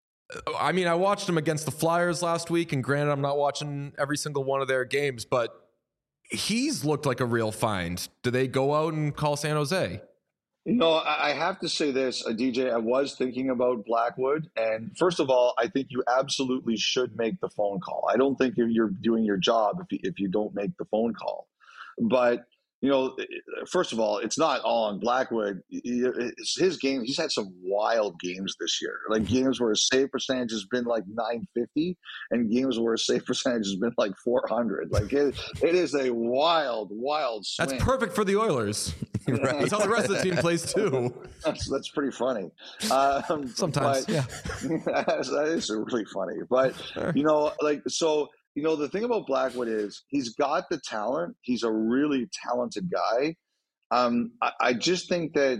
I mean, I watched him against the Flyers last week, and granted, I'm not watching every single one of their games, but he's looked like a real find. Do they go out and call San Jose? I have to say this, DJ, I was thinking about Blackwood. And first of all, I think you absolutely should make the phone call. I don't think you're doing your job if you don't make the phone call. But, first of all, it's not all on Blackwood. It's his game. He's had some wild games this year, like games where his save percentage has been like 950 and games where his save percentage has been like 400. Like it is a wild swing. That's perfect for the Oilers. Right. That's how the rest of the team plays too. That's pretty funny. Sometimes, yeah. That is really funny. But, the thing about Blackwood is he's got the talent. He's a really talented guy. I just think that,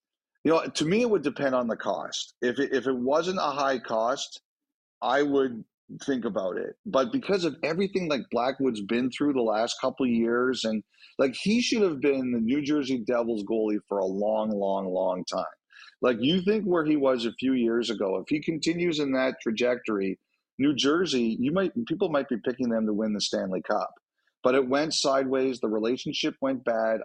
to me, it would depend on the cost. If it wasn't a high cost, I would think about it. But because of everything like Blackwood's been through the last couple of years, and like he should have been the New Jersey Devils goalie for a long, long, long time. Like you think where he was a few years ago, if he continues in that trajectory, New Jersey, people might be picking them to win the Stanley Cup. But it went sideways. The relationship went bad.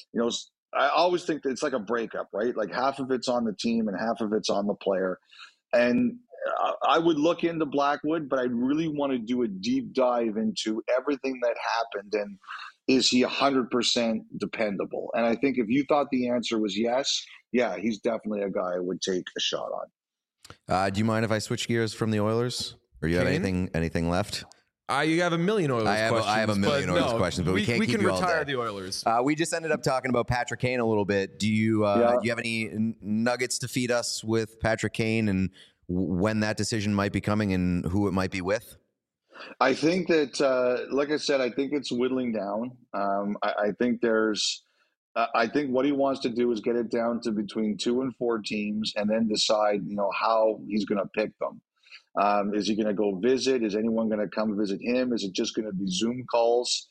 I always think that it's like a breakup, right? Like half of it's on the team and half of it's on the player. And I would look into Blackwood, but I really want to do a deep dive into everything that happened and is he 100% dependable? And I think if you thought the answer was yes, yeah, he's definitely a guy I would take a shot on. Do you mind if I switch gears from the Oilers? Or you have anything left? You have a million Oilers questions. I have a million Oilers questions, but we can't keep you all retire day. the Oilers. We just ended up talking about Patrick Kane a little bit. Do you have any nuggets to feed us with Patrick Kane and when that decision might be coming and who it might be with? I think that, like I said, I think it's whittling down. I think I think what he wants to do is get it down to between 2 and 4 teams, and then decide, how he's going to pick them. Is he going to go visit? Is anyone going to come visit him? Is it just going to be Zoom calls?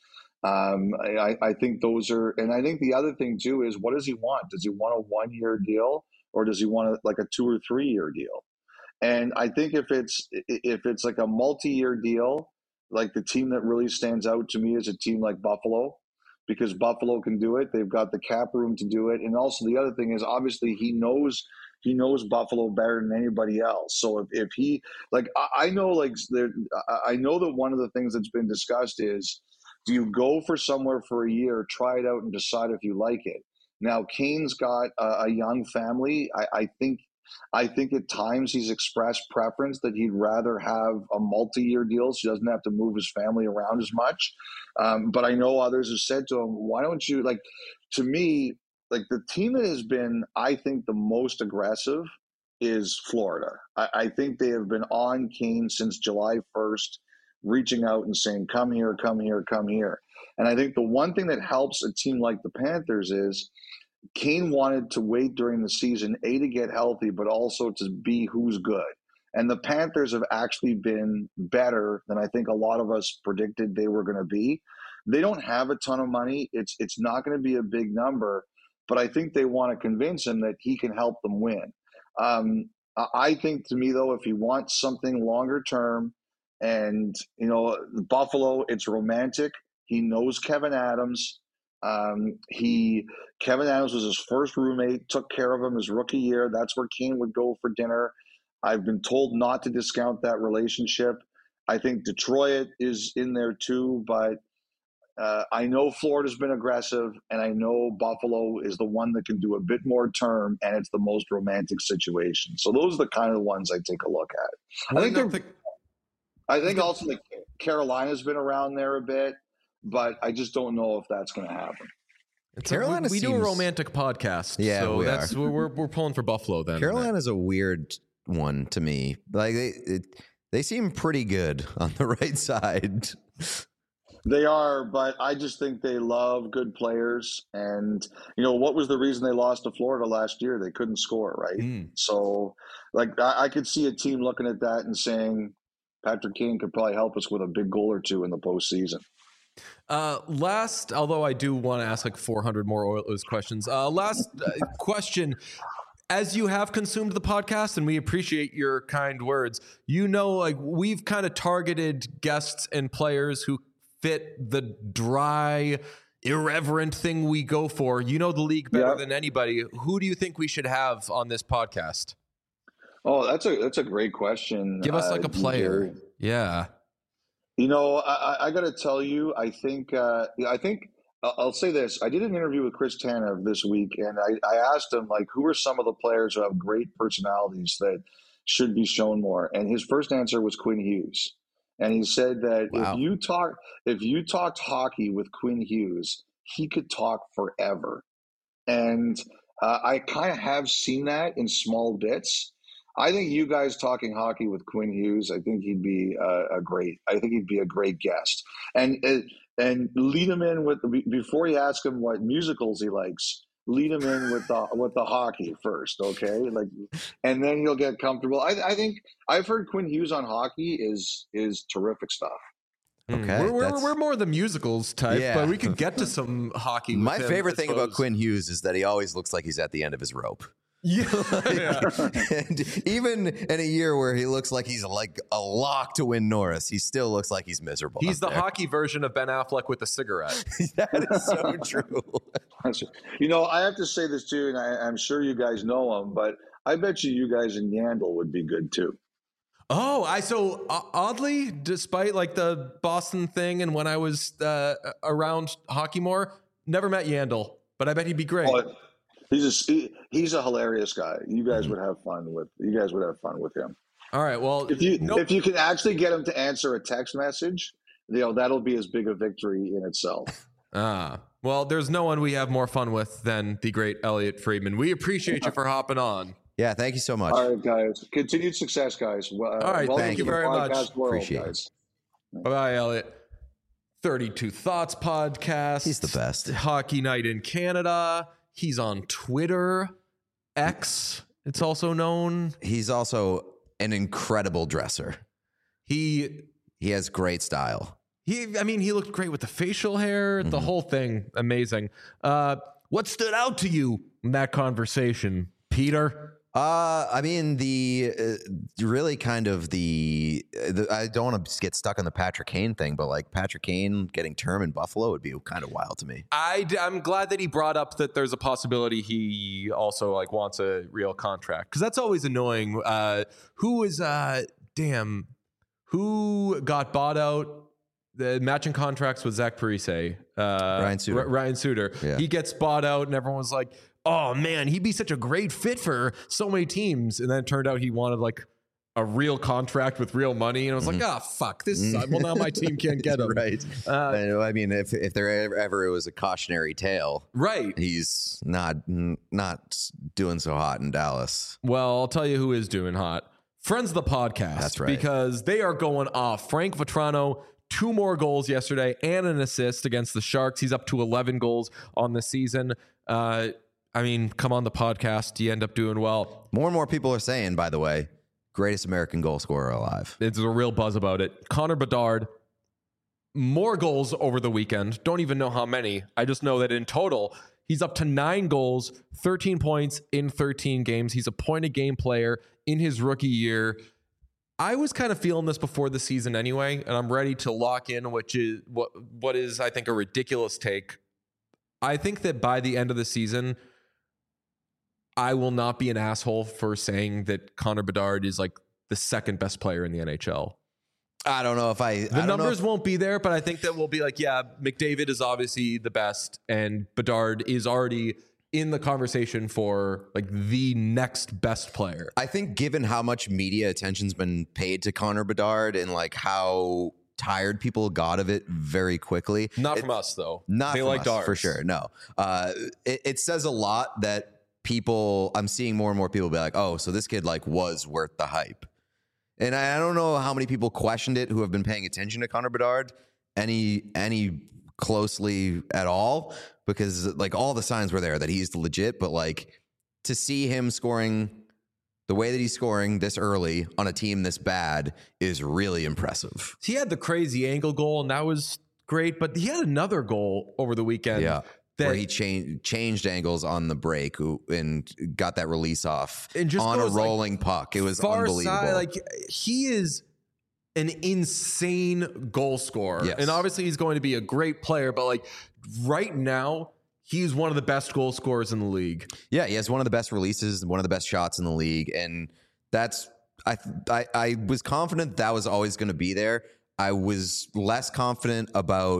I think those are, and I think the other thing too is, what does he want? Does he want a 1-year deal, or does he want like a 2 or 3 year deal? And I think if it's like a multi-year deal, like the team that really stands out to me is a team like Buffalo, because Buffalo can do it. They've got the cap room to do it. And also the other thing is, obviously he knows Buffalo better than anybody else. So if he, like, I know, like, I know that one of the things that's been discussed is, do you go for somewhere for a year, try it out, and decide if you like it? Now, Kane's got a young family. I think at times he's expressed preference that he'd rather have a multi-year deal so he doesn't have to move his family around as much. But I know others have said to him, why don't you, like, to me, like, the team that has been, I think, the most aggressive is Florida. I think they have been on Kane since July 1st, reaching out and saying, come here, come here, come here. And I think the one thing that helps a team like the Panthers is Kane wanted to wait during the season, to get healthy, but also to be who's good. And the Panthers have actually been better than I think a lot of us predicted they were going to be. They don't have a ton of money. It's not going to be a big number, but I think they want to convince him that he can help them win. I think, to me, though, if he wants something longer term, and, Buffalo, it's romantic. He knows Kevin Adams. Kevin Adams was his first roommate, took care of him his rookie year. That's where Kane would go for dinner. I've been told not to discount that relationship. I think Detroit is in there too, but I know Florida's been aggressive, and I know Buffalo is the one that can do a bit more term, and it's the most romantic situation. So those are the kind of ones I take a look at. I think also that Carolina's been around there a bit, but I just don't know if that's going to happen. Carolina we do a romantic podcast. Yeah, so we're pulling for Buffalo then. Carolina's a weird one to me. Like they seem pretty good on the right side. They are, but I just think they love good players. And, what was the reason they lost to Florida last year? They couldn't score, right? So, like, I could see a team looking at that and saying, Patrick Kane could probably help us with a big goal or two in the postseason. Although I do want to ask like 400 more Oilers questions. Last question. As you have consumed the podcast, and we appreciate your kind words, like, we've kind of targeted guests and players who fit the dry, irreverent thing we go for. You know the league better than anybody. Who do you think we should have on this podcast? Oh, that's a great question. Give us like a player. Yeah. I got to tell you, I think I'll say this. I did an interview with Chris Tanev this week, and I asked him, like, who are some of the players who have great personalities that should be shown more? And his first answer was Quinn Hughes. And he said that if you talked hockey with Quinn Hughes, he could talk forever. And I kind of have seen that in small bits. I think you guys talking hockey with Quinn Hughes, I think he'd be a great guest. And lead him in with, before you ask him what musicals he likes, lead him in with the hockey first, okay? Like, and then he'll get comfortable. I think I've heard Quinn Hughes on hockey is terrific stuff. Okay, we're more the musicals type, but we could get to some hockey. My favorite thing about Quinn Hughes is that he always looks like he's at the end of his rope. Yeah. And even in a year where he looks like he's like a lock to win Norris, he still looks like he's miserable. He's the hockey version of Ben Affleck with a cigarette. That is so true. I have to say this too, and I'm sure you guys know him, but I bet you guys in Yandle would be good too. Oh, oddly, despite like the Boston thing and when I was around hockey more, never met Yandle, but I bet he'd be great. Oh, he's a hilarious guy. You guys would have fun with him. All right. Well, if you can actually get him to answer a text message, that'll be as big a victory in itself. Well, there's no one we have more fun with than the great Elliot Friedman. We appreciate you for hopping on. Yeah, thank you so much. All right, guys. Continued success, guys. All right, thank you very much. Appreciate guys. Bye, Elliot. 32 Thoughts podcast. He's the best. Hockey Night in Canada. He's on Twitter, X. It's also known. He's also an incredible dresser. He has great style. He looked great with the facial hair, the whole thing. Amazing. What stood out to you in that conversation, Peter? Really kind of I don't want to get stuck on the Patrick Kane thing, but like Patrick Kane getting term in Buffalo would be kind of wild to me. I'm glad that he brought up that there's a possibility he also like wants a real contract, because that's always annoying. Who got bought out? The matching contracts with Zach Parise, Ryan Suter. Yeah. He gets bought out, and everyone was like, "Oh man, he'd be such a great fit for so many teams." And then it turned out he wanted like a real contract with real money, and I was like, "Ah, fuck this! Well, now my team can't get him." Right. If there ever was a cautionary tale, right? He's not doing so hot in Dallas. Well, I'll tell you who is doing hot. Friends of the podcast. That's right. Because they are going off. Frank Vatrano, 2 more goals yesterday and an assist against the Sharks. He's up to 11 goals on the season. Come on the podcast. You end up doing well. More and more people are saying, by the way, greatest American goal scorer alive. There's a real buzz about it. Connor Bedard, more goals over the weekend. Don't even know how many. I just know that in total, he's up to 9 goals, 13 points in 13 games. He's a point-a-game player in his rookie year. I was kind of feeling this before the season anyway, and I'm ready to lock in, which is what is, I think, a ridiculous take. I think that by the end of the season, I will not be an asshole for saying that Connor Bedard is like the second best player in the NHL. I don't know if the numbers won't be there, but I think that we'll be like, yeah, McDavid is obviously the best, and Bedard is already in the conversation for like the next best player. I think given how much media attention's been paid to Connor Bedard and like how tired people got of it very quickly. Not from us though. They liked ours for sure. No, it says a lot that I'm seeing more and more people be like, oh, so this kid like was worth the hype. And I don't know how many people questioned it who have been paying attention to Connor Bedard any closely at all, because like all the signs were there that he's legit, but like to see him scoring the way that he's scoring this early on a team this bad is really impressive. He had the crazy angle goal, and that was great, but he had another goal over the weekend. Yeah. Where he changed angles on the break and got that release off and just on a rolling puck. It was unbelievable. Side, he is an insane goal scorer. Yes. And obviously he's going to be a great player, but right now he's one of the best goal scorers in the league. Yeah, he has one of the best releases, one of the best shots in the league. And that's, I was confident that was always going to be there. I was less confident about,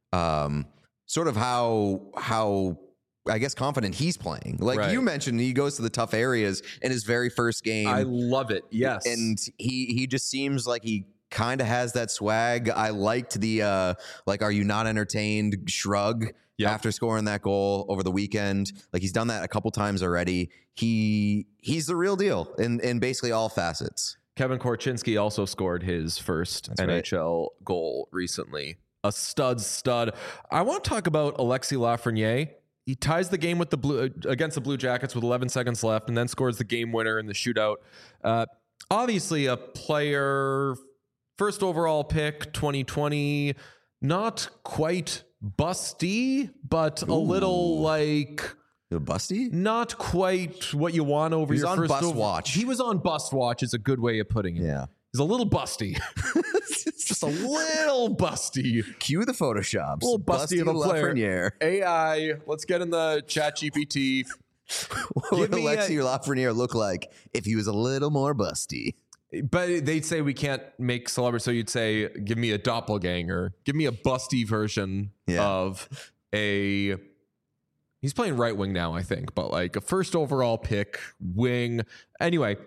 sort of how I guess confident he's playing. Like you mentioned, he goes to the tough areas in his very first game. I love it. Yes. And he just seems like he kind of has that swag. I liked the are you not entertained shrug after scoring that goal over the weekend. Like he's done that a couple times already. He's the real deal in basically all facets. Kevin Korchinski also scored his first NHL goal recently. A stud. I want to talk about Alexis Lafreniere. He ties the game with against the Blue Jackets with 11 seconds left, and then scores the game winner in the shootout. Obviously, a player, first overall pick, 2020, not quite busty, but a little busty. Not quite what you want over your first. Bust watch. He was on bust watch. Is a good way of putting it. Yeah. He's a little busty. Just a little busty. Cue the Photoshops. A little busty of a player. Lafreniere. AI. Let's get in the chat GPT. What would Alexis Lafreniere look like if he was a little more busty? But they'd say we can't make celebrities. So you'd say, give me a doppelganger. Give me a busty version of a... He's playing right wing now, I think. But like a first overall pick, wing. Anyway...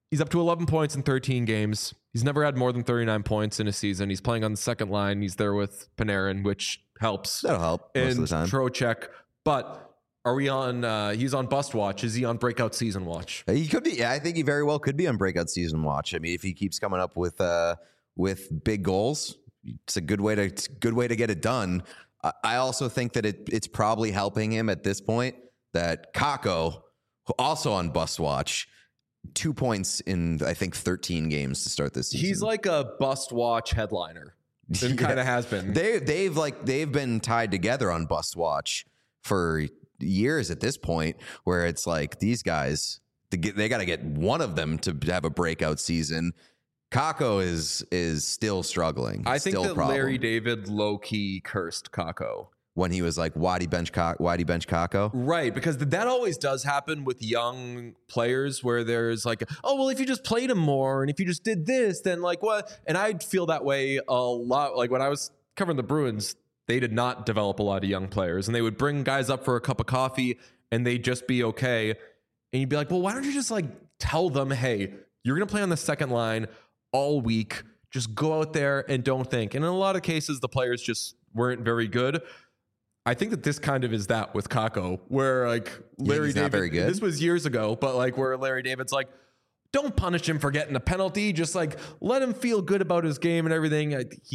He's up to 11 points in 13 games. He's never had more than 39 points in a season. He's playing on the second line. He's there with Panarin, which helps. That'll help most And of the time. Trocheck. But are we on, he's on bust watch. Is he on breakout season watch? He could be. Yeah, I think he very well could be on breakout season watch. I mean, if he keeps coming up with big goals, it's a good way to get it done. I also think that it's probably helping him at this point that Kakko, also on bust watch, 2 points in I think 13 games to start this season. He's like a bust watch headliner. And kind of has been. They've been tied together on bust watch for years at this point, where it's like these guys they got to get one of them to have a breakout season. Kakko is still struggling. I think still that a problem. Larry David low-key cursed Kakko. When he was like, why'd he bench Kakko? Right, because that always does happen with young players where there's like, oh, well, if you just played him more and if you just did this, then like what? And I'd feel that way a lot. Like when I was covering the Bruins, they did not develop a lot of young players and they would bring guys up for a cup of coffee and they'd just be okay. And you'd be like, well, why don't you just like tell them, hey, you're going to play on the second line all week. Just go out there and don't think. And in a lot of cases, the players just weren't very good. I think that this kind of is that with Kakko, where like Larry David, not very good? This was years ago, but like where Larry David's like, don't punish him for getting a penalty. Just like let him feel good about his game and everything.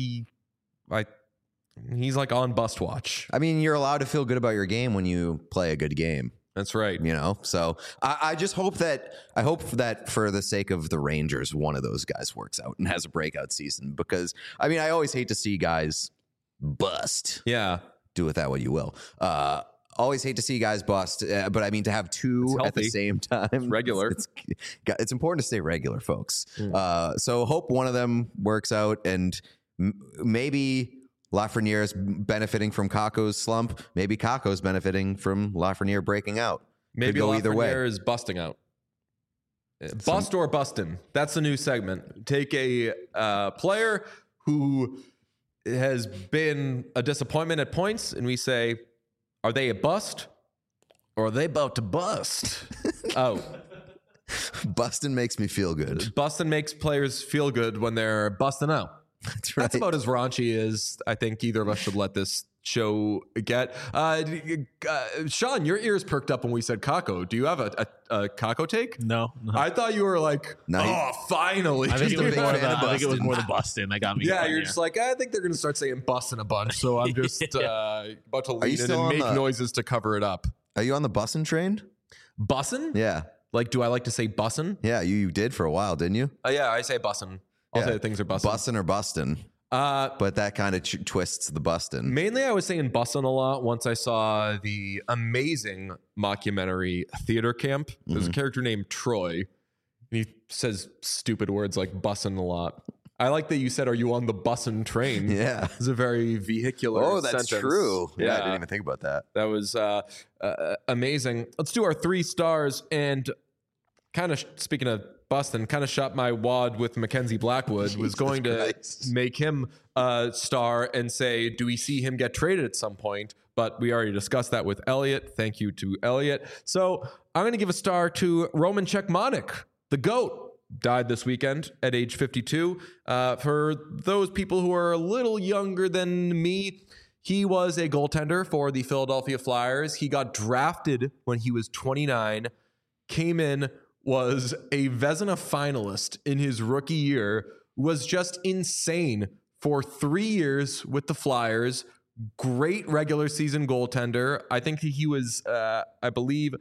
He's like on bust watch. I mean, you're allowed to feel good about your game when you play a good game. That's right. You know, so I just hope that for the sake of the Rangers, one of those guys works out and has a breakout season, because I mean, I always hate to see guys bust. Yeah. Do with that what you will. Always hate to see guys bust, but I mean, to have two at the same time, it's regular. It's important to stay regular, folks. So hope one of them works out, and maybe Lafreniere is benefiting from Kakko's slump. Maybe Kakko's benefiting from Lafreniere breaking out. Maybe Could go either way. Lafreniere is busting out. Bust or bustin'. That's a new segment. Take a player who has been a disappointment at points, and we say, are they a bust or are they about to bust? Oh. Bustin' makes me feel good. Bustin' makes players feel good when they're busting out. That's right. That's about as raunchy as I think either of us should let this show get. Sean, your ears perked up when we said Kakko. Do you have a Kakko take? No. I thought you were like, finally. I think, Just a big fan of I think it was bustin'. more the busting that got me. Yeah, going you're here. just like, I think they're going to start saying bustin' a bunch. So I'm just about to lean in still and on make the- noises to cover it up. Are you on the bussin' train? Bussin'? Yeah. Like, do I like to say bussin'? Yeah, you did for a while, didn't you? Yeah, I say bussin'. I'll say things are bussin'. Bussin' or bustin'. But that kind of twists the bustin'. Mainly, I was saying bussin' a lot once I saw the amazing mockumentary Theater Camp. There's a character named Troy, and he says stupid words like bussin' a lot. I like that you said, are you on the bussin' train? Yeah. It's a very vehicular Oh, that's sentence. true. Yeah, I didn't even think about that. That was amazing. Let's do our 3 stars. And kind of speaking of bustin', kind of shot my wad with Mackenzie Blackwood. Was going to make him a star and say, do we see him get traded at some point? But we already discussed that with Elliot. Thank you to Elliot. So I'm going to give a star to Roman Cechmanek, the GOAT. Died this weekend at age 52. For those people who are a little younger than me, he was a goaltender for the Philadelphia Flyers. He got drafted when he was 29, came in, was a Vezina finalist in his rookie year, was just insane for 3 years with the Flyers. Great regular season goaltender. I think he was, I believe,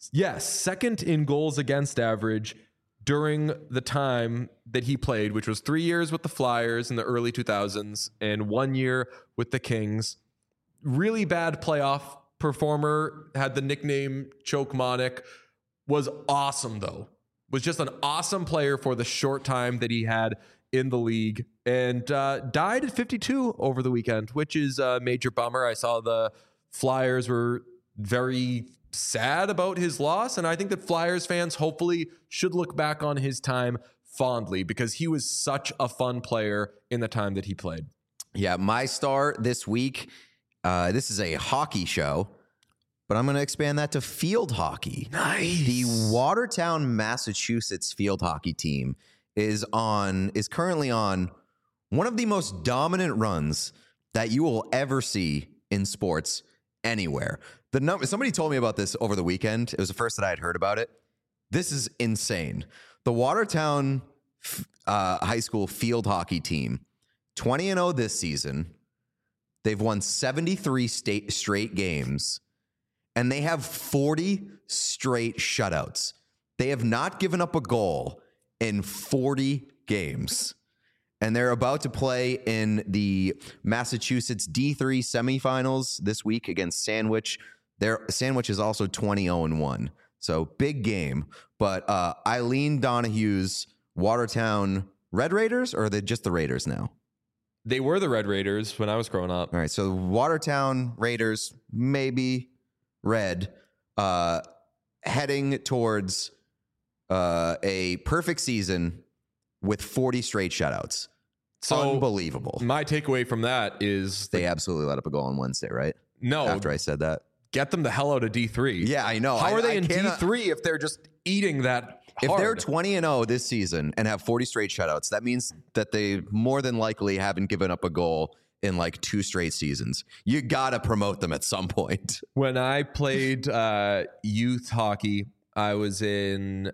second in goals against average during the time that he played, which was 3 years with the Flyers in the early 2000s and 1 year with the Kings. Really bad playoff performer, had the nickname Chokemonic, was awesome though. Was just an awesome player for the short time that he had in the league, and died at 52 over the weekend, which is a major bummer. I saw the Flyers were very sad about his loss, and I think that Flyers fans hopefully should look back on his time fondly because he was such a fun player in the time that he played. Yeah, my star this week, this is a hockey show, but I'm going to expand that to field hockey. Nice. The Watertown, Massachusetts field hockey team is currently on one of the most dominant runs that you will ever see in sports anywhere. Somebody told me about this over the weekend. It was the first that I had heard about it. This is insane. The Watertown high school field hockey team, 20-0 this season. They've won 73 straight games, and they have 40 straight shutouts. They have not given up a goal in 40 games. And they're about to play in the Massachusetts D3 semifinals this week against Sandwich. Sandwich is also 20-1. So big game. But Eileen Donahue's Watertown Red Raiders, or are they just the Raiders now? They were the Red Raiders when I was growing up. All right, so Watertown Raiders, maybe red, heading towards a perfect season with 40 straight shutouts. So unbelievable. My takeaway from that is they absolutely let up a goal on Wednesday, right? No. After I said that. Get them the hell out of D3. Yeah, I know. How are they in D3 if they're just eating that hard? If they're 20-0 this season and have 40 straight shutouts, that means that they more than likely haven't given up a goal in like 2 straight seasons. You got to promote them at some point. When I played youth hockey, I was in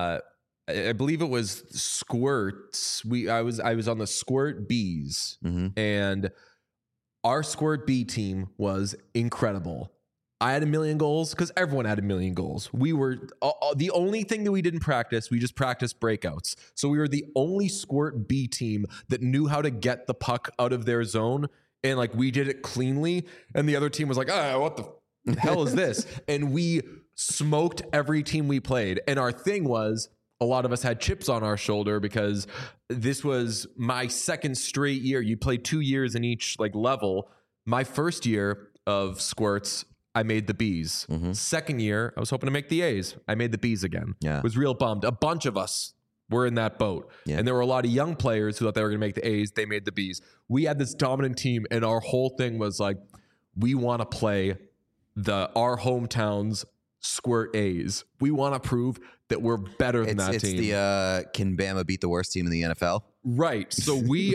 I believe it was Squirts. I was on the Squirt Bees, and our Squirt B team was incredible. I had 1 million goals because everyone had 1 million goals. We were the only thing that we didn't practice. We just practiced breakouts. So we were the only Squirt B team that knew how to get the puck out of their zone, and like we did it cleanly. And the other team was like, what the hell is this? And we smoked every team we played. And our thing was, a lot of us had chips on our shoulder because this was my second straight year. You play 2 years in each like level. My first year of Squirts, I made the Bs. Second year, I was hoping to make the As. I made the Bs again. Yeah. Was real bummed. A bunch of us were in that boat. Yeah. And there were a lot of young players who thought they were going to make the As. They made the Bs. We had this dominant team, and our whole thing was like, we want to play our hometown's Squirt A's. We want to prove that we're better than that team. It's can Bama beat the worst team in the NFL? Right. So we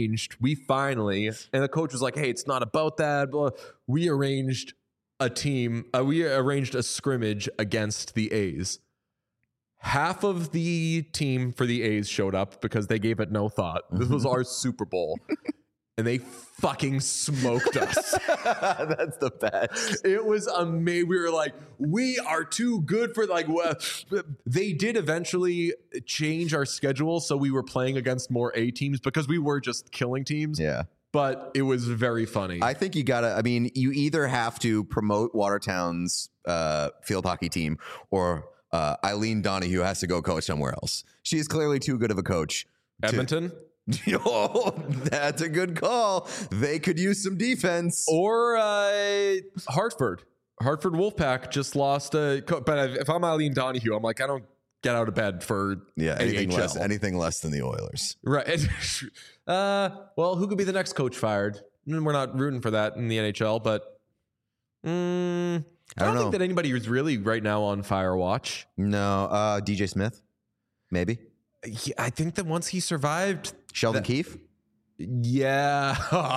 finally, and the coach was like, hey, it's not about that. Blah. We arranged a team. We arranged a scrimmage against the A's. Half of the team for the A's showed up because they gave it no thought. This was our Super Bowl. And they fucking smoked us. That's the best. It was amazing. We were like, we are too good for like. They did eventually change our schedule, so we were playing against more A teams because we were just killing teams. Yeah. But it was very funny. I think you you either have to promote Watertown's field hockey team, or Eileen Donahue has to go coach somewhere else. She's clearly too good of a coach. Edmonton? Oh, that's a good call. They could use some defense. Or Hartford. Hartford Wolfpack just lost a but if I'm Eileen Donahue, I'm like, I don't get out of bed for anything less than the Oilers. Right. Well, who could be the next coach fired? We're not rooting for that in the NHL, but I don't think that anybody is really right now on fire watch. No, DJ Smith, maybe. Yeah, I think that once he survived Sheldon Keefe. Yeah.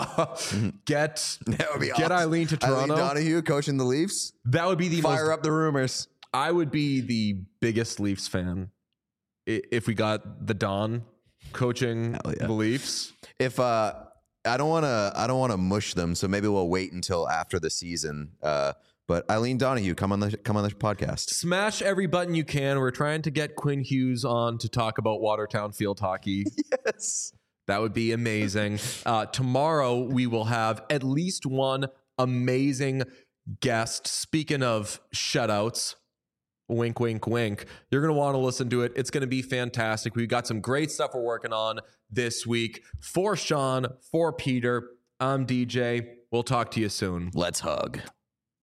Get awesome. Eileen to Toronto. Eileen Donahue coaching the Leafs. That would be the fire up the rumors. I would be the biggest Leafs fan if we got the Don coaching the Leafs. If I don't want to mush them, so maybe we'll wait until after the season. But Eileen Donahue, come on the podcast. Smash every button you can. We're trying to get Quinn Hughes on to talk about Watertown field hockey. Yes. That would be amazing. Tomorrow, we will have at least one amazing guest. Speaking of shutouts, wink, wink, wink. You're going to want to listen to it. It's going to be fantastic. We've got some great stuff we're working on this week. For Sean, for Peter, I'm DJ. We'll talk to you soon. Let's hug.